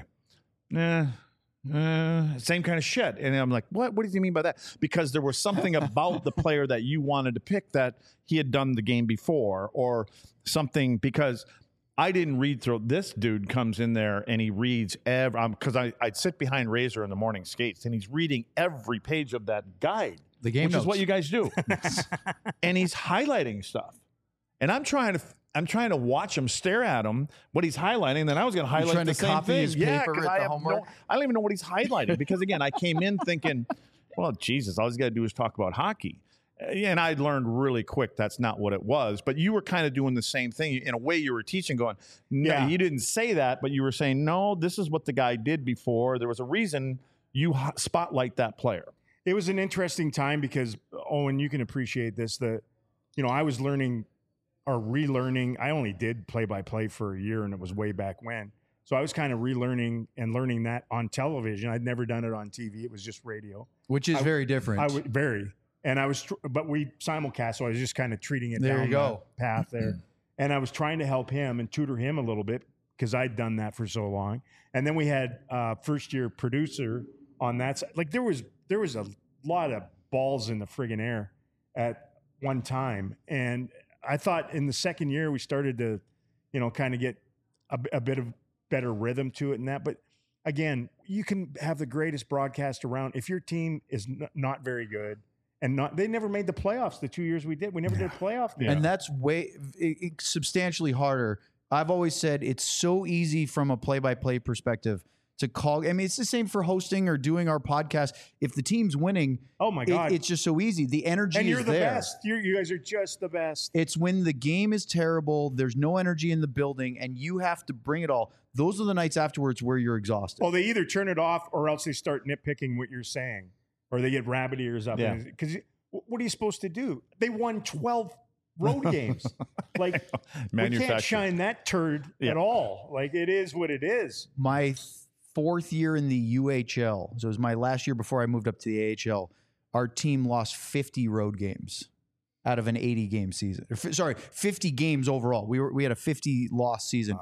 Same kind of shit. And I'm like, what? What do you mean by that? Because there was something about the player that you wanted to pick that he had done the game before, or something. Because I didn't read through. This dude comes in there and he reads because I'd sit behind Razor in the morning skates, and he's reading every page of that guide. The game which notes. is what you guys do. And he's highlighting stuff. And I'm trying to watch him, stare at him, what he's highlighting. And then I was going to highlight trying the to same copy thing. his paper 'cause at I the have homework? I don't even know what he's highlighting because, again, I came in thinking, well, Jesus, all he's got to do is talk about hockey. And I learned really quick that's not what it was. But you were kind of doing the same thing. In a way, you were teaching, going, no, Yeah. you didn't say that, but you were saying, no, this is what the guy did before. There was a reason you spotlight that player. It was an interesting time because, Owen, you can appreciate this. I was learning or relearning. I only did play-by-play for a year, and it was way back when. So I was kind of relearning and learning that on television. I'd never done it on TV. It was just radio. Which is very different. I would very. And I was, but we simulcast, so I was just kind of treating it There down you go. the path there. And I was trying to help him and tutor him a little bit because I'd done that for so long. And then we had a first-year producer on that side. Like there was a lot of balls in the friggin' air at one time. And I thought in the second year we started to, kind of get a bit of better rhythm to it and that. But again, you can have the greatest broadcast around. If your team is not very good, and they never made the playoffs the 2 years we did. We never did a playoff game. And that's substantially harder. I've always said it's so easy from a play-by-play perspective to call. I mean, it's the same for hosting or doing our podcast. If the team's winning, oh my God, it's just so easy. The energy and you're is the there. best. You guys are just the best. It's when the game is terrible, there's no energy in the building, and you have to bring it all. Those are the nights afterwards where you're exhausted. Well, they either turn it off or else they start nitpicking what you're saying, or they get rabbit ears up. Yeah. Because what are you supposed to do? They won 12 road games. Like, we can't shine that turd at all. Like, it is what it is. My fourth year in the UHL, so it was my last year before I moved up to the AHL, our team lost 50 road games out of an 80-game season. 50 games overall. We had a 50-loss season.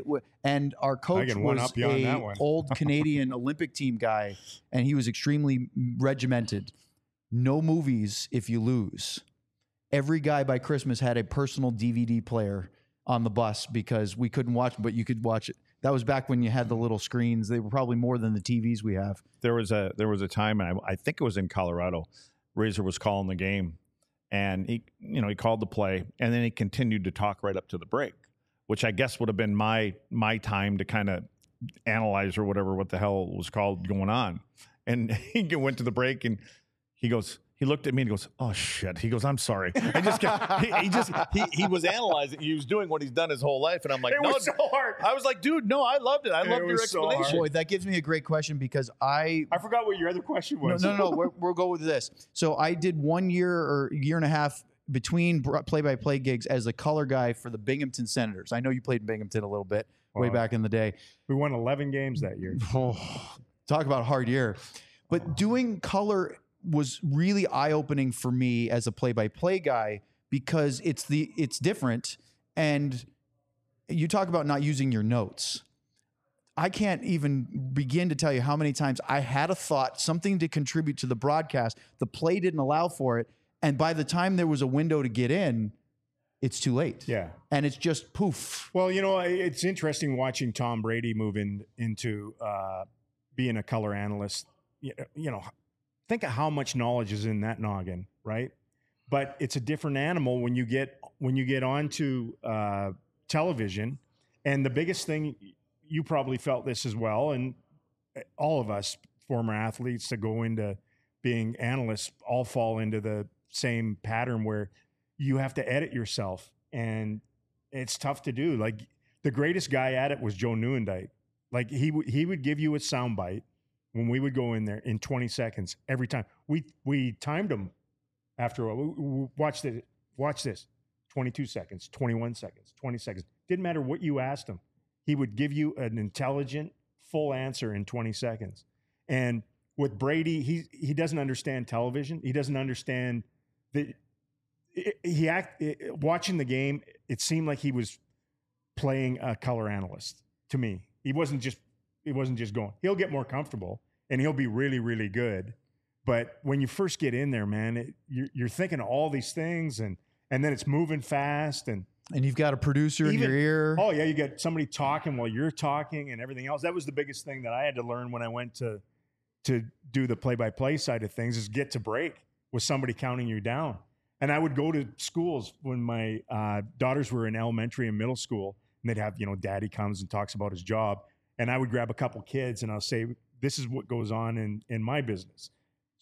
And our coach was an old Canadian Olympic team guy, and he was extremely regimented. No movies if you lose. Every guy by Christmas had a personal DVD player on the bus because we couldn't watch, but you could watch it. That was back when you had the little screens. They were probably more than the TVs we have. There was a time, and I think it was in Colorado. Razor was calling the game, and he called the play, and then he continued to talk right up to the break, which I guess would have been my time to kind of analyze or whatever what the hell was called going on. And he went to the break, and he goes. He looked at me and goes, "Oh shit!" He goes, "I'm sorry." I just he was analyzing. He was doing what he's done his whole life, and I'm like, it was so hard. I was like, "Dude, no, I loved it. I loved your explanation." So Boy, that gives me a great question because I forgot what your other question was. No. We'll go with this. So I did 1 year or year and a half between play-by-play gigs as a color guy for the Binghamton Senators. I know you played in Binghamton a little bit way back in the day. We won 11 games that year. Talk about a hard year. But doing color was really eye-opening for me as a play-by-play guy because it's different. And you talk about not using your notes. I can't even begin to tell you how many times I had a thought, something to contribute to the broadcast. The play didn't allow for it. And by the time there was a window to get in, it's too late. Yeah. And it's just poof. Well, it's interesting watching Tom Brady move into being a color analyst. Think of how much knowledge is in that noggin, right? But it's a different animal when you get onto television. And the biggest thing, you probably felt this as well, and all of us former athletes that go into being analysts all fall into the same pattern where you have to edit yourself, and it's tough to do. Like the greatest guy at it was Joe Nieuwendyk. Like he would give you a soundbite when we would go in there in 20 seconds every time. We timed him after a while. Watch this. 22 seconds, 21 seconds, 20 seconds. Didn't matter what you asked him. He would give you an intelligent, full answer in 20 seconds. And with Brady, he doesn't understand television. He doesn't understand watching the game, it seemed like he was playing a color analyst to me. He wasn't just going. He'll get more comfortable and he'll be really, really good. But when you first get in there, man, you're thinking of all these things and then it's moving fast and you've got a producer in your ear. Oh yeah, you got somebody talking while you're talking and everything else. That was the biggest thing that I had to learn when I went to do the play-by-play side of things, is get to break with somebody counting you down. And I would go to schools when my daughters were in elementary and middle school, and they'd have, daddy comes and talks about his job. And I would grab a couple kids and I'll say, this is what goes on in my business.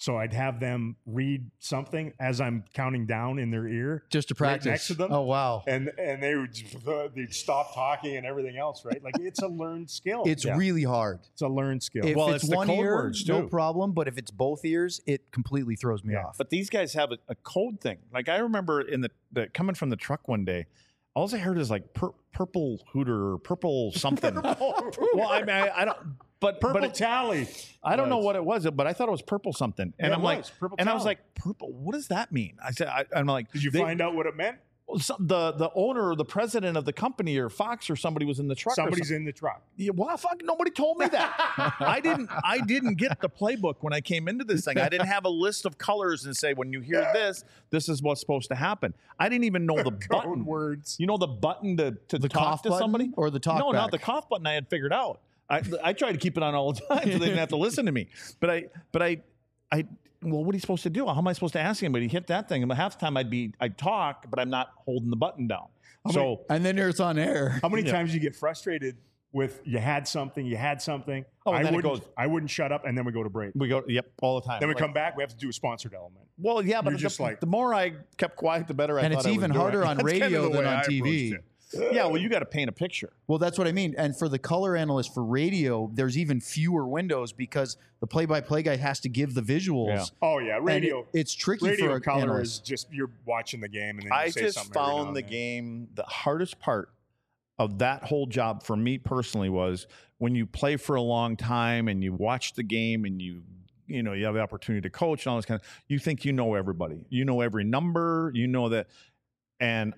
So I'd have them read something as I'm counting down in their ear, Just to right practice. next to them. Oh, wow. And they'd stop talking and everything else, right? Like it's a learned skill. It's really hard. It's a learned skill. If Well, it's it's the one code ear, words, no too. problem. But if it's both ears, it completely throws me off. But these guys have a code thing. Like I remember in the coming from the truck one day, all I heard is like purple hooter or purple something. Well, I mean, I don't. But Purple it- tally. I don't know what it was, but I thought it was purple something. And Yeah, I'm it like, was, purple and I was tally. like, purple. What does that mean? I said, I'm like, Did you find out what it meant? the owner or the president of the company or Fox or somebody was in the truck. Somebody's or in the truck. yeah, well, fuck, nobody told me that. I didn't get the playbook when I came into this thing. I didn't have a list of colors and say, when you hear this, this is what's supposed to happen. I didn't even know the button words. You know the button to The talk cough to button somebody or the talk No, not back? the cough button. I had figured out. I tried to keep it on all the time so they didn't have to listen to me. But I well, what are you supposed to do? How am I supposed to ask anybody? Hit that thing. And half the time I'd talk, but I'm not holding the button down. So And then it's on air. How many times do you get frustrated with you had something? Oh, and then it I wouldn't shut up, and then we go to break. we go, yep, all the time. Then we Like, come back. We have to do a sponsored element. Well, yeah, but You're just like- the more I kept quiet, the better I And thought it's I was even doing harder it. on That's kind of radio the than way on I TV. approached it. Yeah, well, you got to paint a picture. Well, that's what I mean. And for the color analyst for radio, there's even fewer windows because the play-by-play guy has to give the visuals. Yeah. Oh yeah, And radio. it's tricky radio for an color analyst. is just you're watching the game, and then you I say just something every now found and the then. game, the hardest part of that whole job for me personally was when you play for a long time and you watch the game and you have the opportunity to coach and all this kind of, you think you know everybody, you know every number, you know that, and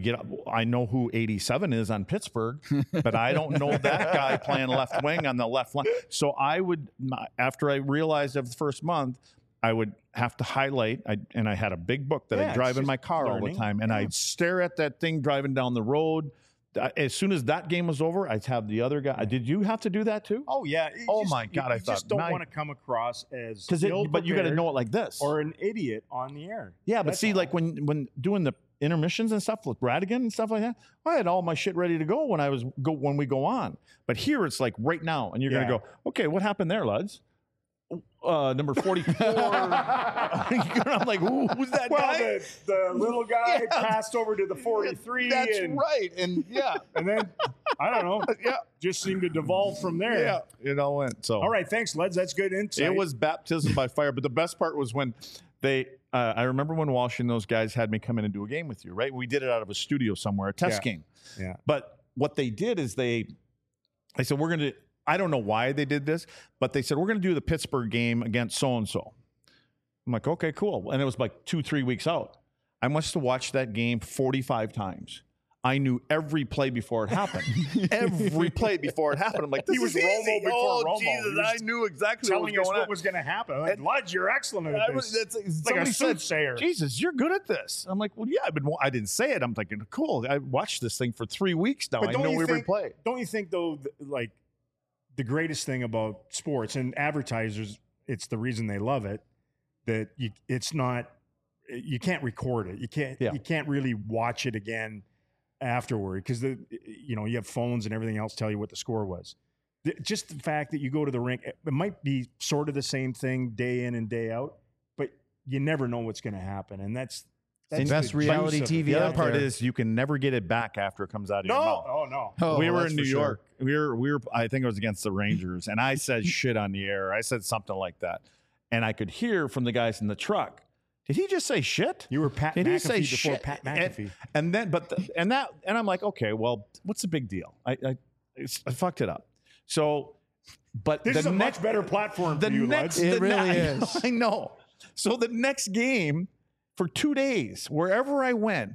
I know who 87 is on Pittsburgh, but I don't know that guy playing left wing on the left line. So I would, after I realized after the first month, I would have to highlight, and I had a big book that Yeah, I'd drive it's in my just car all learning. the time, and I'd stare at that thing driving down the road. As soon as that game was over, I'd have the other guy. Did you have to do that too? Oh yeah. Oh, my God, I you thought, just don't my- want to come across as But you got to ill-prepared know it like this. or an idiot on the air. Yeah, but That's see, all. like when doing the intermissions and stuff with Radigan and stuff like that, I had all my shit ready to go when we go on. But here it's like right now, and you're Yeah. gonna go, okay, what happened there, lads? Number 44. I'm like, who's that Well, guy? the little guy Yeah. passed over to the 43. That's and, right, and yeah, And then I don't know. yeah, Just seemed to devolve from there. yeah, it all went. So All right, thanks, Leds. That's good insight. it was baptism by fire. But the best part was when they. I remember when Walsh and those guys had me come in and do a game with you. Right, we did it out of a studio somewhere, a test game. Yeah. But what they did is they said, we're going to, I don't know why they did this, but they said, we're going to do the Pittsburgh game against so-and-so. I'm like, okay, cool. And it was like 2-3 weeks out. I must have watched that game 45 times. I knew every play before it happened. Every play before it happened. I'm like, this He was is Romo easy. before Oh, Romo. Jesus, He was I knew exactly what was telling us going what on. was going to happen. Like, Leds, you're excellent at this. That's, like a somebody said, soothsayer. Jesus, you're good at this. I'm like, well, yeah, I didn't say it. I'm thinking, cool. I watched this thing for 3 weeks now. But I don't know you every think- play. Don't you think, though, like the greatest thing about sports and advertisers, it's the reason they love it, that it's not, you can't record it. You can't really watch it again afterward because you have phones and everything else tell you what the score was. Just the fact that you go to the rink, it might be sort of the same thing day in and day out, but you never know what's going to happen, and that's best the reality juice of it. TV The other out part there. is you can never get it back after it comes out of your No, mouth. oh no. Oh, we well, were that's in New for sure. York. We were. I think it was against the Rangers, and I said shit on the air. I said something like that, and I could hear from the guys in the truck. Did he just say shit? You were Pat Did he McAfee say before shit? Pat McAfee. And then, and I'm like, okay, well, what's the big deal? I fucked it up. So, but This the is a next, much better platform the for you, next, Leds. It the really I know, is. I know. So the next game for 2 days, wherever I went,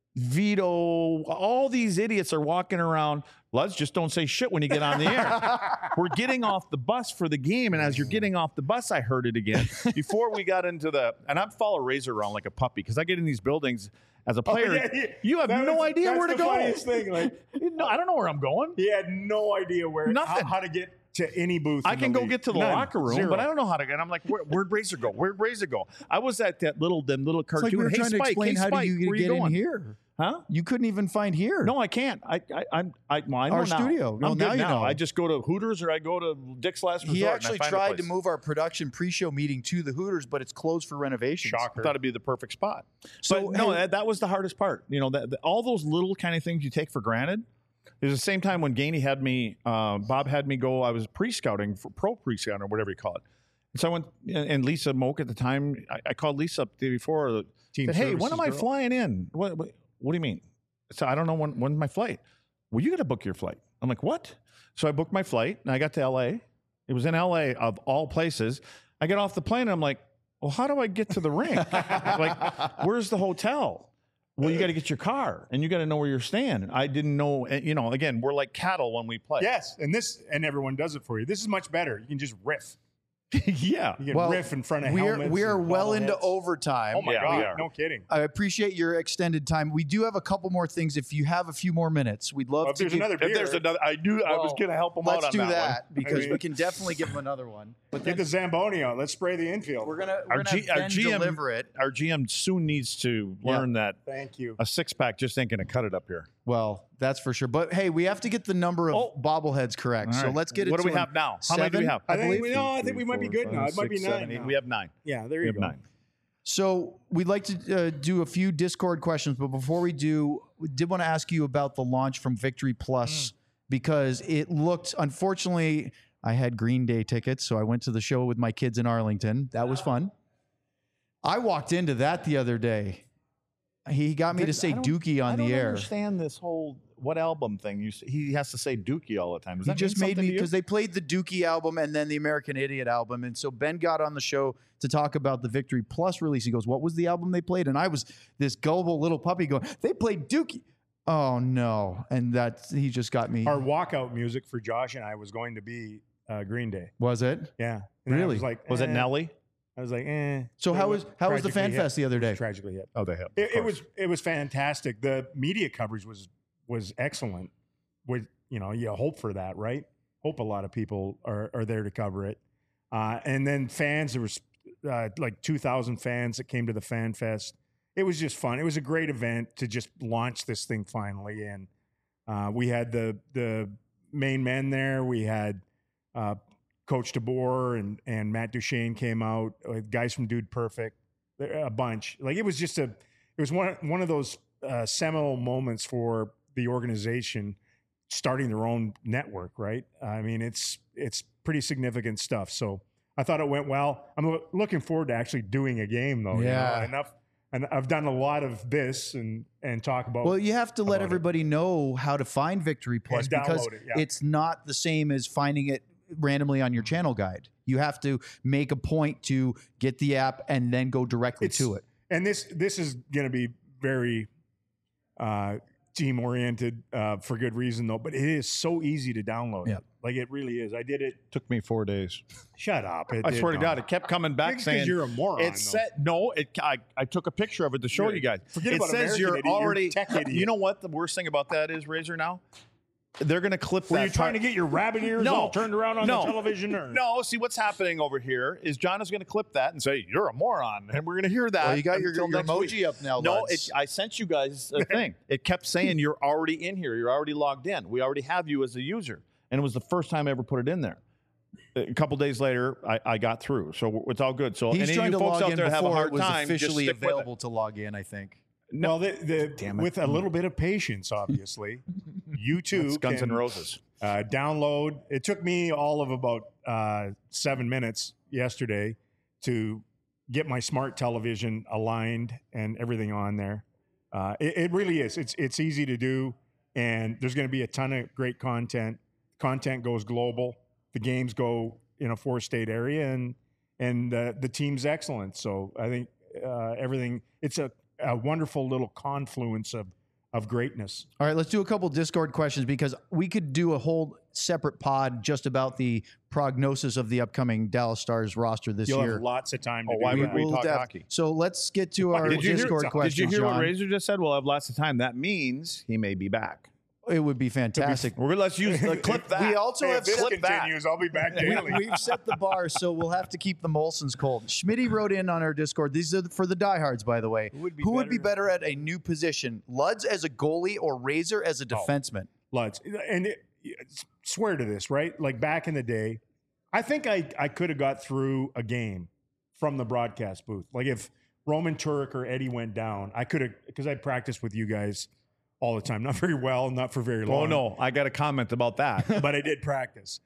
Vito, all these idiots are walking around. Let's just don't say shit when you get on the air. We're getting off the bus for the game, and as you're getting off the bus, I heard it again. Before we got into and I follow Razor around like a puppy because I get in these buildings as a player. You have no idea where to that's the go. funniest thing. Like, No, I don't know where I'm going. he had no idea Nothing. how to get to any booth. I in can the go league. get to the None. locker room, Zero. but I don't know how to get. I'm like, where'd Razor go? Where'd Razor go? I was at them little It's like cartoon. we were Hey trying to Spike, explain hey how Spike, do you where get you in going? here. Huh? You couldn't even find here. No, I can't. I know Our now. studio. Well, I'm now good you now. know. I just go to Hooters or I go to Dick's Last Resort. He and I actually find a tried to place. move our production pre-show meeting to the Hooters, but it's closed for renovations. I thought it'd be the perfect spot. So, But no, hey- that was the hardest part. You know, all those little kind of things you take for granted. There's the same time when Gainey had me, Bob had me go. I was pre-scouting for pro pre-scouting or whatever you call it. And so I went, and Lisa Moak at the time, I called Lisa up the day before. Team Said, hey, when services am I girl. flying in? What do you mean? So I don't know when's my flight. Well, you got to book your flight. I'm like, what? So I booked my flight and I got to L.A. It was in L.A. of all places. I get off the plane and I'm like, well, how do I get to the rink? Like, where's the hotel? Well, you got to get your car and you got to know where you're staying. I didn't know. You know, again, we're like cattle when we play. Yes, and everyone does it for you. This is much better. You can just riff. Yeah. You can Well, riff in front of we helmets. are and well into bobbleheads. overtime. Oh my Yeah, we God! are. No kidding. I appreciate your extended time. We do have a couple more things. If you have a few more minutes, we'd love Well, if to there's give, another beer, If there's another, I was going to help them out let's on do that, that, one. because I mean- we can definitely give them another one. But get then the Zamboni out. Let's spray the infield. we're gonna Our have G- our Ben GM deliver it. Our GM soon needs to learn that Thank you. a 6-pack just ain't going to cut it up here. Well, that's for sure. But hey, we have to get the number of bobbleheads correct. All So right. let's get it. What do to we have now? How many do we have? I think believe. I think we might be good now. It might be 9 now. We have 9. Yeah, there We you have go. 9. So we'd like to do a few Discord questions, but before we do, we did want to ask you about the launch from Victory Plus because it looked. Unfortunately, I had Green Day tickets, so I went to the show with my kids in Arlington. That was fun. I walked into that the other day. He got me to say Dookie on the air. I don't understand this whole what album thing. He has to say Dookie all the time. Does He that just mean made something me to you? because they played the Dookie album and then the American Idiot album. And so Ben got on the show to talk about the Victory Plus release. He goes, what was the album they played? And I was this gullible little puppy going, they played Dookie. Oh, no. And he just got me. Our walkout music for Josh and I was going to be Green Day. Was it? Yeah. And I Really? was like, Was it Nelly? I was like, So how was the Tragically Fan hit. Fest the other day? Tragically hit. Oh, they have. It was fantastic. The media coverage was excellent. With you hope for that, right? Hope a lot of people are there to cover it. And then fans, there was like 2,000 fans that came to the Fan Fest. It was just fun. It was a great event to just launch this thing finally. And we had the main men there. We had Coach DeBoer and Matt Duchene came out. Guys from Dude Perfect, a bunch. Like it was just it was one of those seminal moments for the organization starting their own network. Right? I mean, it's pretty significant stuff. So I thought it went well. I'm looking forward to actually doing a game though. Yeah. Enough. And I've done a lot of this and talk about. Well, you have to let about it. everybody know how to find Victory Plus And download because it, yeah. it's not the same as finding it randomly on your channel guide. You have to make a point to get the app and then go directly to it. And this is going to be very team oriented for good reason though. But it is so easy to download. Yeah. Like it really is. I did it. Took me 4 days. Shut up! I swear to God, it kept coming back Because saying you're a moron. It said no. I took a picture of it to show You're- you guys. forget it about says American you're idiot, you're already. tech idiot. You know what the worst thing about that is, Razor? Now they're going to clip Were that. you trying to part- get your rabbit ears No. all turned around on No. the television? Or? No, see what's happening over here is John is going to clip that and say you're a moron, and we're going to hear that. Well, you got your until next emoji week. up now, No, lads. I sent you guys a thing. It kept saying you're already in here. You're already logged in. We already have you as a user, and it was the first time I ever put it in there. A couple days later, I got through, so it's all good. So He's any trying of to you folks log out in there that have a before hard it was time, just officially stick with it. available to log in, I think. Well, Damn it. with a little bit of patience, obviously, you too It's Guns can N' Roses. download. It took me all of about 7 minutes yesterday to get my smart television aligned and everything on there. It really is. It's easy to do, and there's going to be a ton of great content. Content goes global. The games go in a 4-state area, and the team's excellent. So I think everything. It's a wonderful little confluence of greatness. All right, let's do a couple Discord questions because we could do a whole separate pod just about the prognosis of the upcoming Dallas Stars roster this You'll year. have lots of time to do why would that. we talk hockey? So let's get to our Did you hear- Discord did you questions, Did you hear John. what Razor just said? We'll have lots of time. That means he may be back. It would be fantastic. Let's use clip that. We also Hey, have if this clip that. continues, I'll be back daily. We've set the bar, so we'll have to keep the Molsons cold. Schmitty wrote in on our Discord. These are for the diehards, by the way. Who would be better at a new position? Luds as a goalie or Razor as a defenseman? Lutz. And swear to this, right? Like back in the day, I think I could have got through a game from the broadcast booth. Like if Roman Turek or Eddie went down, I could have, because I practiced with you guys all the time. Not very well, not for very long. Oh, no. I got a comment about that. But I did practice.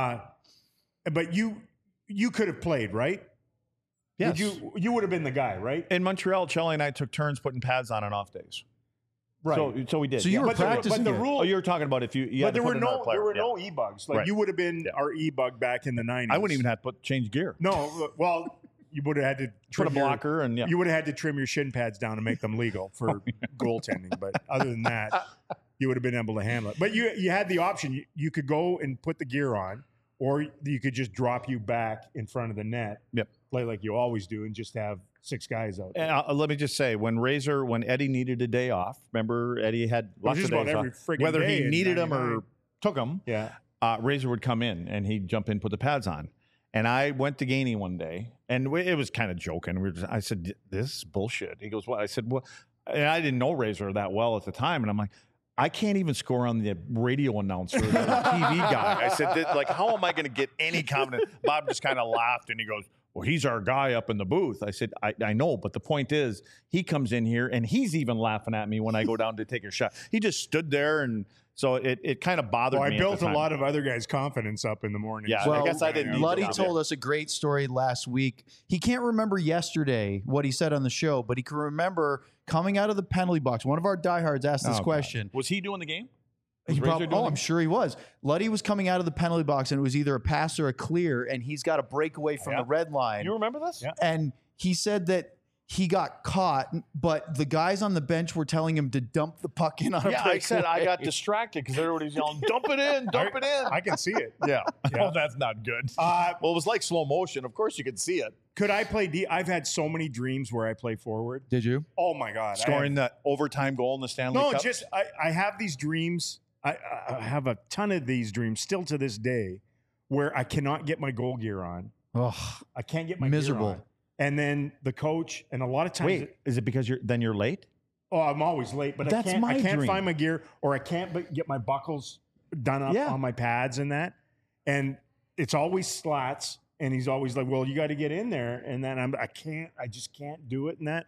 But you could have played, right? Yes. You would have been the guy, right? In Montreal, Charlie and I took turns putting pads on off days. Right. So we did. So you were But practicing the it. rule. Oh, you were talking about if you but had to there were put another player. there were Yeah. no e-bugs. Like Right. you would have been our e-bug back in the 90s. I wouldn't even have to change gear. No, well, you would have had to Put trim a blocker and You would have had to trim your shin pads down to make them legal for goaltending. But other than that, you would have been able to handle it. But you had the option. You could go and put the gear on, or you could just drop you back in front of the net. Yep. Play like you always do, and just have 6 guys out there. And let me just say, when Eddie needed a day off, remember Eddie had lots of just days about every off. friggin' Whether day he in needed them 99. or took them, Yeah. Razor would come in and he'd jump in, put the pads on. And I went to Gainey one day, and it was kind of joking. I said, "This is bullshit." He goes, "What?" I said, "Well," and I didn't know Razor that well at the time, and I'm like, "I can't even score on the radio announcer, or the TV guy." I said, "Like, how am I going to get any confidence?" Bob just kind of laughed, and he goes, "Well, he's our guy up in the booth." I said, I know, but the point is, he comes in here, and he's even laughing at me when I go down to take a shot. He just stood there, and so it kind of bothered Well, me. I built a lot of other guys' confidence up in the morning. Yeah, Well, I guess I didn't need Luddy to. told us a great story last week. He can't remember yesterday what he said on the show, but he can remember coming out of the penalty box. One of our diehards asked this question. Was he doing the game? He Was Razor probably, doing I'm the- sure he was. Luddy was coming out of the penalty box, and it was either a pass or a clear, and he's got a breakaway from the red line. You remember this? Yeah. And he said that he got caught, but the guys on the bench were telling him to dump the puck in on a Yeah, breakaway. I said I got distracted because everybody's yelling, "Dump it in, dump it in." I can see it. Yeah. Yeah. Oh, that's not good. Uh, Well, it was like slow motion. Of course, you could see it. Could I play D? I've had so many dreams where I play forward. Did you? Oh my God. Scoring that overtime goal in the Stanley No, Cup. just I have these dreams. I have a ton of these dreams still to this day where I cannot get my goal gear on. Oh, I can't get my Miserable. gear on. And then the coach, and a lot of times, Wait, is it because you're late? oh, I'm always late, but That's I my can't dream. find my gear, or I can't get my buckles done up Yeah. on my pads and that. And it's always slats, and he's always like, "Well, you got to get in there." And then I just can't do it and that.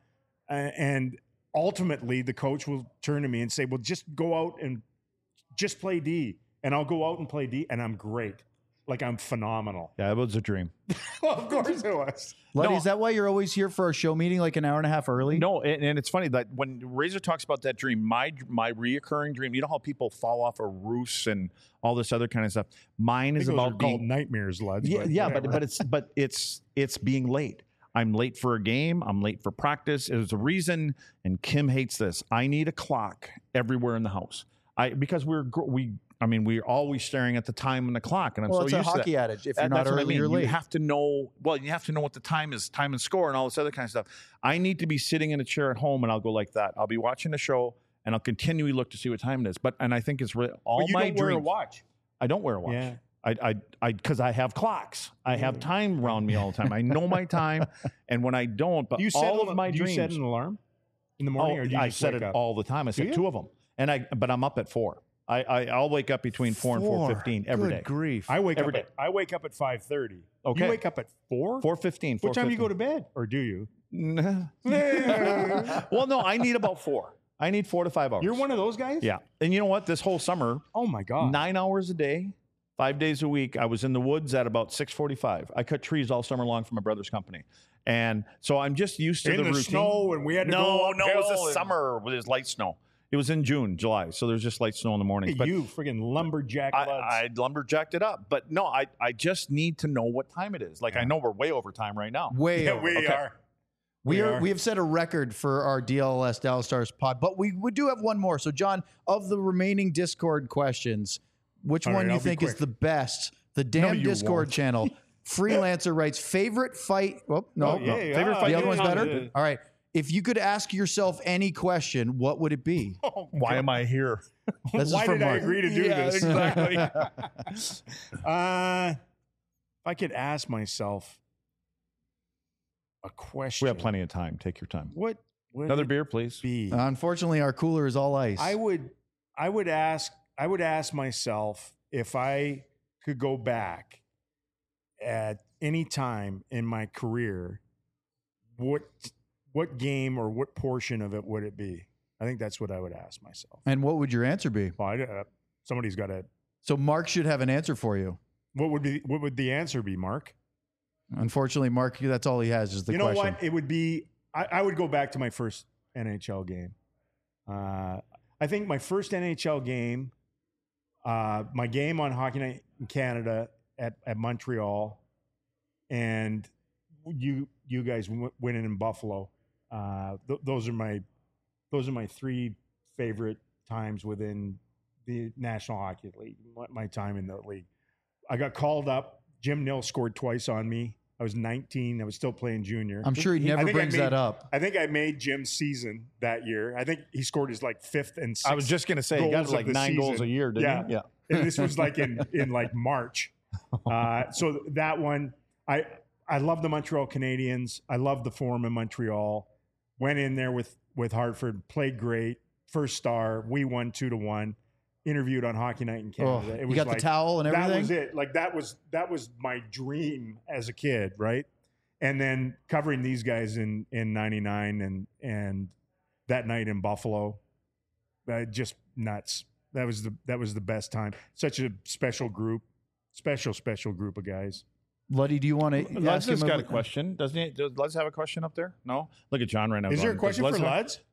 And ultimately, the coach will turn to me and say, "Well, just go out and just play D," and I'll go out and play D, and I'm great. Like I'm phenomenal. Yeah, it was a dream. Well, of course it was. Luddy, No. is that why you're always here for our show meeting like an hour and a half early? No, and it's funny that when Razor talks about that dream, my reoccurring dream, you know how people fall off of roofs and all this other kind of stuff. Mine is Those are about called being nightmares, lads. yeah, whatever. but it's being late. I'm late for a game. I'm late for practice. There's a reason, and Kim hates this. I need a clock everywhere in the house. Because we're always staring at the time on the clock, and I'm Well, so it's a used to hockey that. adage. If you're not That's what I early, mean. you're late. You have to know. Well, you have to know what the time is, time and score, and all this other kind of stuff. I need to be sitting in a chair at home, and I'll go like that. I'll be watching the show, and I'll continually look to see what time it is. And I think it's all But you my don't wear a dreams. watch. I don't wear a watch. Yeah. Because I have clocks. I have time around me all the time. I know my time, and when I don't, but Do you set all of my do dreams. you set an alarm in the morning, or do you I just set wake it up? all the time. I set you? 2 of them, but I'm up at 4. I'll wake up between 4 and 4:15 every day. Good grief. I wake Every up. I wake up at 5:30. Okay. You wake up at 4. 4:15. What time do you go to bed, or do you? Well, no, I need about 4. I need 4 to 5 hours. You're one of those guys. Yeah, and you know what? This whole summer, Oh my God. 9 hours a day, 5 days a week. I was in the woods at about 6:45. I cut trees all summer long for my brother's company, and so I'm just used to in the the routine. snow, and we had to go. No, it was uphill the and- summer with his light snow. It was in June, July, so there's just light snow in the morning. Hey, you friggin' lumberjack. I lumberjacked it up, but no, I just need to know what time it is. Like I know we're way over time right now. Way Yeah, over. we Okay. are. We are. have set a record for our DLS Dallas Stars pod, but we do have one more. So, John, of the remaining Discord questions, which All one right, you I'll be think is quick. the best? The damn you Discord won't. channel. Freelancer writes favorite fight. Oh no, Oh, yeah, no. yeah. Favorite The fight other one's game? better. Yeah. All right. if you could ask yourself any question, what would it be? Why am I here? This is Why from did I Mark. agree to do Yeah, this? exactly. If I could ask myself a question. We have plenty of time. Take your time. What would Another it beer, please. be? Unfortunately, our cooler is all ice. I would ask myself if I could go back at any time in my career, what game or what portion of it would it be? I think that's what I would ask myself. And what would your answer be? Well, somebody's got to. So Mark should have an answer for you. What would the answer be, Mark? Unfortunately, Mark, that's all he has is the You know question. what? It would be. I would go back to my first NHL game. I think my first NHL game, my game on Hockey Night in Canada at Montreal, and you guys winning in Buffalo. Those are my three favorite times within the National Hockey League. My time in the league. I got called up. Jim Nill scored twice on me. I was 19. I was still playing junior. I'm sure he I never think brings that up. I think I made Jim's season that year. I think he scored his like fifth and sixth. I was just going to say, he got goals like of the 9 goals season. a year, didn't he? Yeah. And this was like in like March. So that one, I love the Montreal Canadiens. I love the Forum in Montreal. Went in there with Hartford, played great. First star. We won 2-1. Interviewed on Hockey Night in Canada. You got the towel and everything? That was it. Like that was my dream as a kid, right? And then covering these guys in 99 and that night in Buffalo, just nuts. That was the best time. Such a special group, special group of guys. Luddy, do you want to Lud's ask him? got a question. Doesn't he? Does Lud's have a question up there? No? Look at John right now. Is there a going, question "Does for Lud's have-" Luds?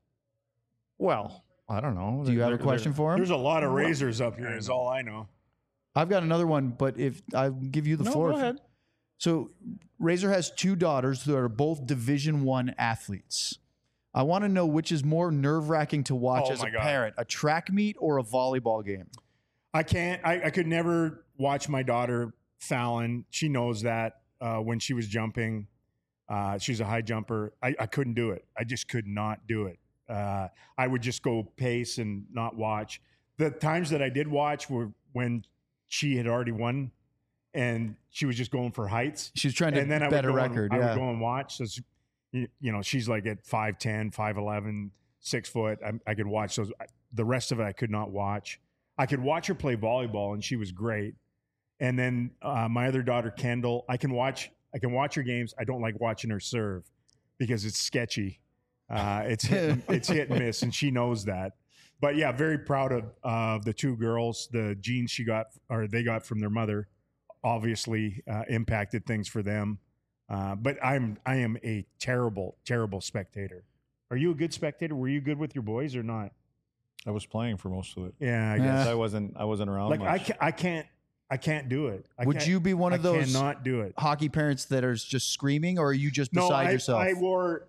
Well, I don't know. Do you have a question for him? There's a lot of razors up here. Is all I know. I've got another one, but if I'll give you the No, floor. go ahead. So Razor has 2 daughters who are both Division I athletes. I want to know which is more nerve-wracking to watch Oh as a my God. parent, a track meet or a volleyball game. I can't. I could never watch my daughter Fallon. She knows that when she was jumping, she's a high jumper. I couldn't do it. I just could not do it. I would just go pace and not watch. The times that I did watch were when she had already won, and she was just going for heights. She was trying to And then I bet a would go record. And, I yeah. would go and watch. So, she's like at 5'10", 5'11", 6 foot. I could watch those. The rest of it, I could not watch. I could watch her play volleyball, and she was great. And then my other daughter, Kendall, I can watch her games. I don't like watching her serve because it's sketchy. It's hit and miss, and she knows that. But yeah, very proud of the 2 girls. The genes they got from their mother, obviously impacted things for them. But I am a terrible spectator. Are you a good spectator? Were you good with your boys or not? I was playing for most of it. Yeah, I guess. I wasn't around Like much. I can't do it. Would you be one of those cannot do it. hockey parents that are just screaming, or are you just beside yourself? I wore.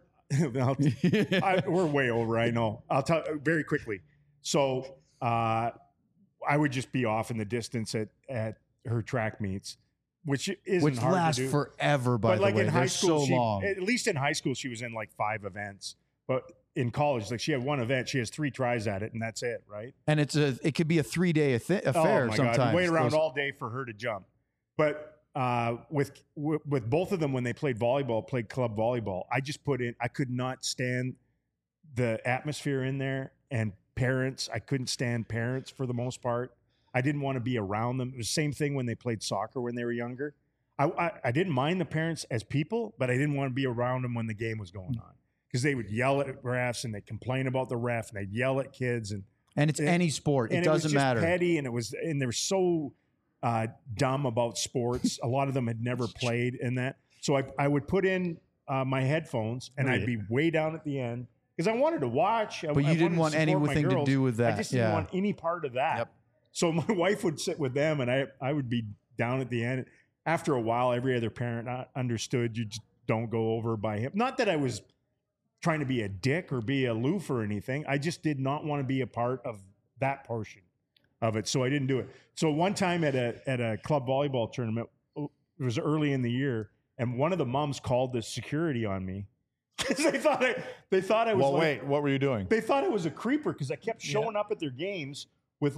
We're way over. I know. I'll tell very quickly. So I would just be off in the distance at her track meets, which isn't Which hard lasts to do. forever, by But the like way. in high They're school, so long. at least in high school, she was in like 5 events. But in college, like she had 1 event, she has 3 tries at it, and that's it, right? And it could be a 3-day affair Oh my sometimes. God, wait around Those- all day for her to jump. But with both of them, when they played volleyball, played club volleyball, I just I could not stand the atmosphere in there, and parents. I couldn't stand parents for the most part. I didn't want to be around them. It was the same thing when they played soccer when they were younger. I didn't mind the parents as people, but I didn't want to be around them when the game was going on because they would yell at refs and they'd complain about the ref and they'd yell at kids and And it's any sport. It was doesn't just matter. petty, and they were so dumb about sports. A lot of them had never played in that. So I would put in my headphones and I'd be way down at the end because I wanted to watch. But you didn't want anything to do with that. I just didn't Yeah. want any part of that. Yep. So my wife would sit with them and I would be down at the end. After a while, every other parent understood you just don't go over by him. Not that I was trying to be a dick or be aloof or anything. I just did not want to be a part of that portion of it. So I didn't do it. So one time at a club volleyball tournament, it was early in the year, and one of the moms called the security on me because they thought I was. Well, like, wait, what were you doing? They thought I was a creeper because I kept showing up at their games with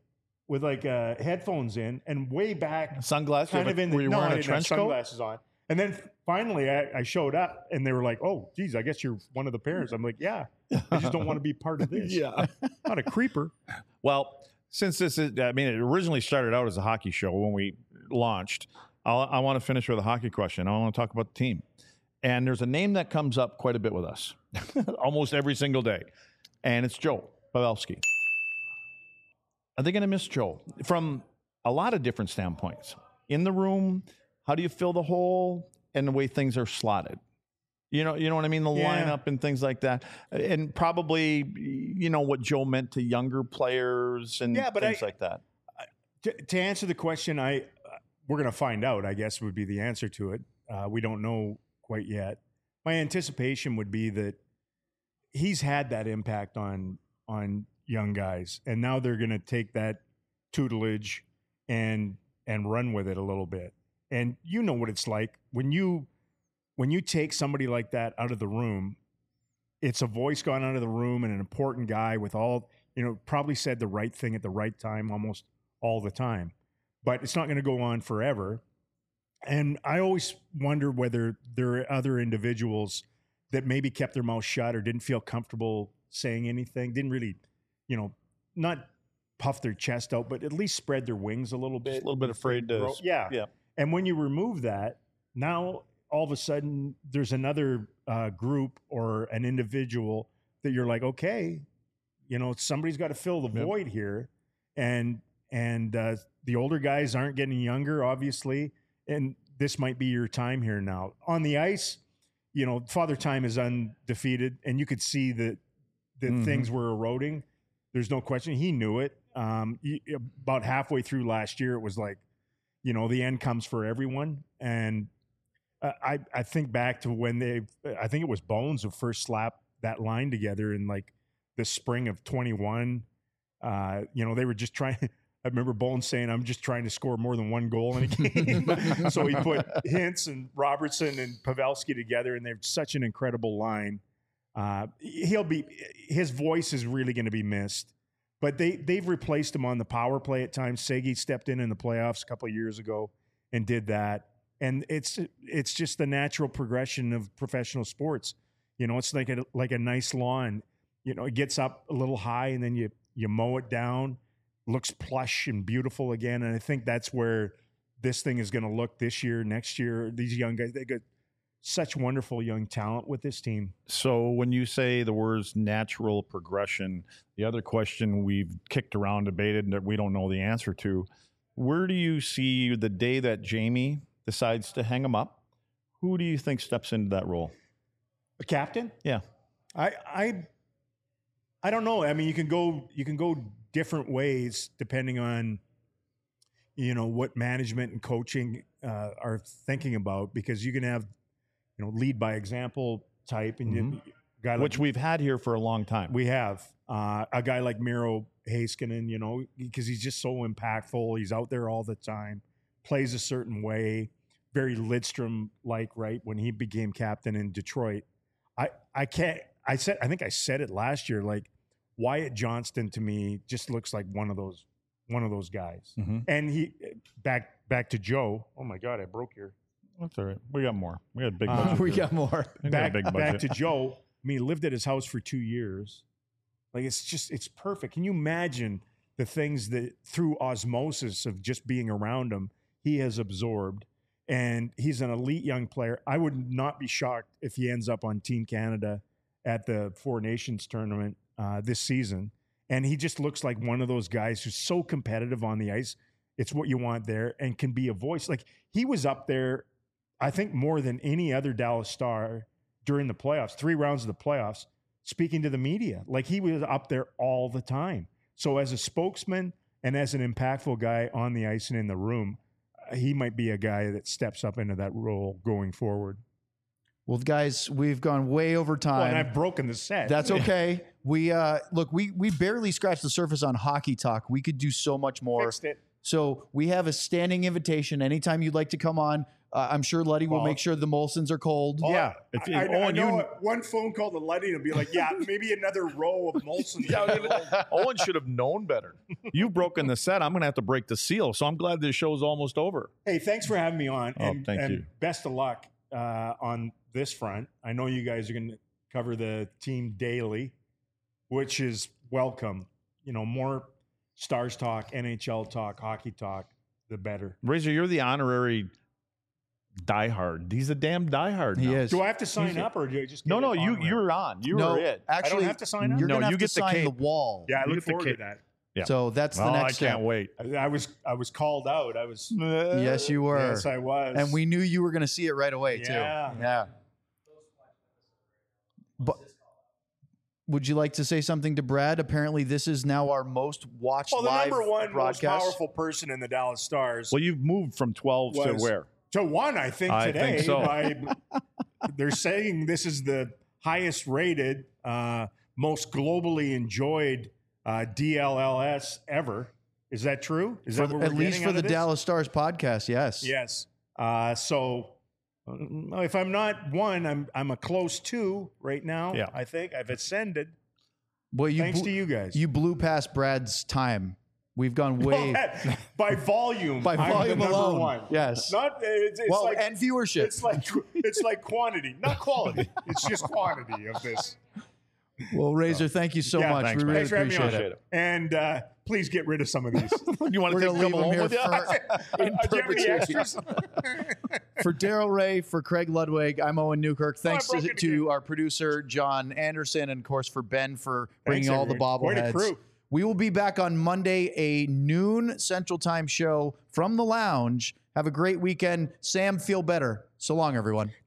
headphones in and way back. Sunglasses? Kind of in the, were you no, I wearing a didn't have trench coat? sunglasses on. And then finally I showed up and they were like, "Oh, geez, I guess you're one of the parents." I'm like, "Yeah, I just don't want to be part of this." Yeah. Not a creeper. Well, since this is, I mean, it originally started out as a hockey show when we launched. I want to finish with a hockey question. I want to talk about the team. And there's a name that comes up quite a bit with us, almost every single day. And it's Joe Pavelski. Are they going to miss Joe? From a lot of different standpoints. In the room, how do you fill the hole and the way things are slotted? You know what I mean? The lineup and things like that. And probably, what Joe meant to younger players and things like that. To answer the question, we're going to find out, I guess, would be the answer to it. We don't know quite yet. My anticipation would be that he's had that impact on young guys, and now they're going to take that tutelage and run with it a little bit. And you know what it's like when you take somebody like that out of the room. It's a voice gone out of the room and an important guy with all, probably said the right thing at the right time almost all the time. But it's not going to go on forever. And I always wonder whether there are other individuals that maybe kept their mouth shut or didn't feel comfortable saying anything, didn't really, not puff their chest out, but at least spread their wings a little bit. Just a little bit afraid to. Yeah. Yeah. And when you remove that, now all of a sudden there's another group or an individual that you're like, okay, somebody's got to fill the void here. And the older guys aren't getting younger, obviously. And this might be your time here now. On the ice, Father Time is undefeated, and you could see that things were eroding. There's no question. He knew it. About halfway through last year, it was like, the end comes for everyone. And I think back to when I think it was Bones who first slapped that line together in like the spring of 21. They were just trying. I remember Bones saying, "I'm just trying to score more than one goal in a game." So he put Hintz and Robertson and Pavelski together, and they're such an incredible line. His voice is really going to be missed, but they've replaced him on the power play at times. Segi stepped in the playoffs a couple of years ago and did that, and it's just the natural progression of professional sports. It's like a nice lawn. It gets up a little high, and then you mow it down. Looks plush and beautiful again. And I think that's where this thing is going to look this year, next year. These young guys, they got such wonderful young talent with this team. So when you say the words natural progression, the other question we've kicked around, debated, that we don't know the answer to, where do you see the day that Jamie decides to hang him up? Who do you think steps into that role? A captain? Yeah. I don't know. I mean, you can go different ways depending on what management and coaching are thinking about, because you can have lead by example type, and which we've had here for a long time. We have a guy like Miro Heiskanen, because he's just so impactful. He's out there all the time, plays a certain way, very Lidstrom like, right, when he became captain in Detroit. I think I said it last year, like, Wyatt Johnston to me just looks like one of those guys. Mm-hmm. And he back to Joe. Oh my God, I broke your. That's all right. We got more. We got a big budget. We got more. Back to Joe. I mean, he lived at his house for 2 years. Like, it's perfect. Can you imagine the things that through osmosis of just being around him, he has absorbed? And he's an elite young player. I would not be shocked if he ends up on Team Canada at the Four Nations tournament this season. And he just looks like one of those guys who's so competitive on the ice. It's what you want there, and can be a voice. Like, he was up there, I think, more than any other Dallas Star during the playoffs, 3 rounds of the playoffs, speaking to the media. Like, he was up there all the time. So as a spokesman and as an impactful guy on the ice and in the room, he might be a guy that steps up into that role going forward. Well, guys, we've gone way over time. Well, and I've broken the set. That's okay. We we barely scratched the surface on hockey talk. We could do so much more. Fixed it. So we have a standing invitation. Anytime you'd like to come on, I'm sure Luddy will Well- make sure the Molsons are cold. Yeah. I Owen, know you, one phone call to Luddy and be like, yeah, maybe another row of Molson. Owen should have known better. You've broken the set. I'm going to have to break the seal. So I'm glad this show's almost over. Hey, thanks for having me on. Oh, thank you. Best of luck on this front. I know you guys are going to cover the team daily, which is welcome. You know, more Stars talk, NHL talk, hockey talk, the better. Razor, you're the honorary diehard. He's a damn diehard. He now. is. Do I have to sign up or do I just get No, it you honorary? you're on. You No, are it. actually, I don't have to sign up? You're No, gonna have you to get the sign cape. the wall. Yeah, I You look get the forward to cape. that. Yeah. So that's the Oh, next I can't step. wait. I was called out. I was. Yes, you were. Yes, I was. And we knew you were going to see it right away, too. Yeah. Yeah. But would you like to say something to Brad? Apparently, this is now our most watched Well, the live number one most broadcast. powerful person in the Dallas Stars Well, you've moved from 12 to Was- where? to one, I think, I today. think so. They're saying this is the highest rated, most globally enjoyed DLLS ever. Is that true? Is that what we're At least getting for out the of this? Dallas Stars podcast, yes. Yes. So if I'm not one, I'm a close two right now. Yeah. I think I've ascended. Well, you Thanks bl- to you guys. You blew past Brad's time. We've gone way by volume. by I'm volume the number alone. one. Yes. Not it's well, like and viewership. it's like quantity, not quality. It's just quantity of this. Well, Razor, thank you so Yeah, much. thanks, we man. really Thanks for having me on. appreciate it. And please get rid of some of these. You want We're to going take to leave them him home here with you? for, in Do you have any perpetuity. extras? For Daryl Ray, for Craig Ludwig, I'm Owen Newkirk. Thanks broke to, it again. our producer, John Anderson, and of course for Ben for bringing Thanks, all the everyone. Quite a bobbleheads. crew. We will be back on Monday, a noon Central Time show from the lounge. Have a great weekend. Sam, feel better. So long, everyone.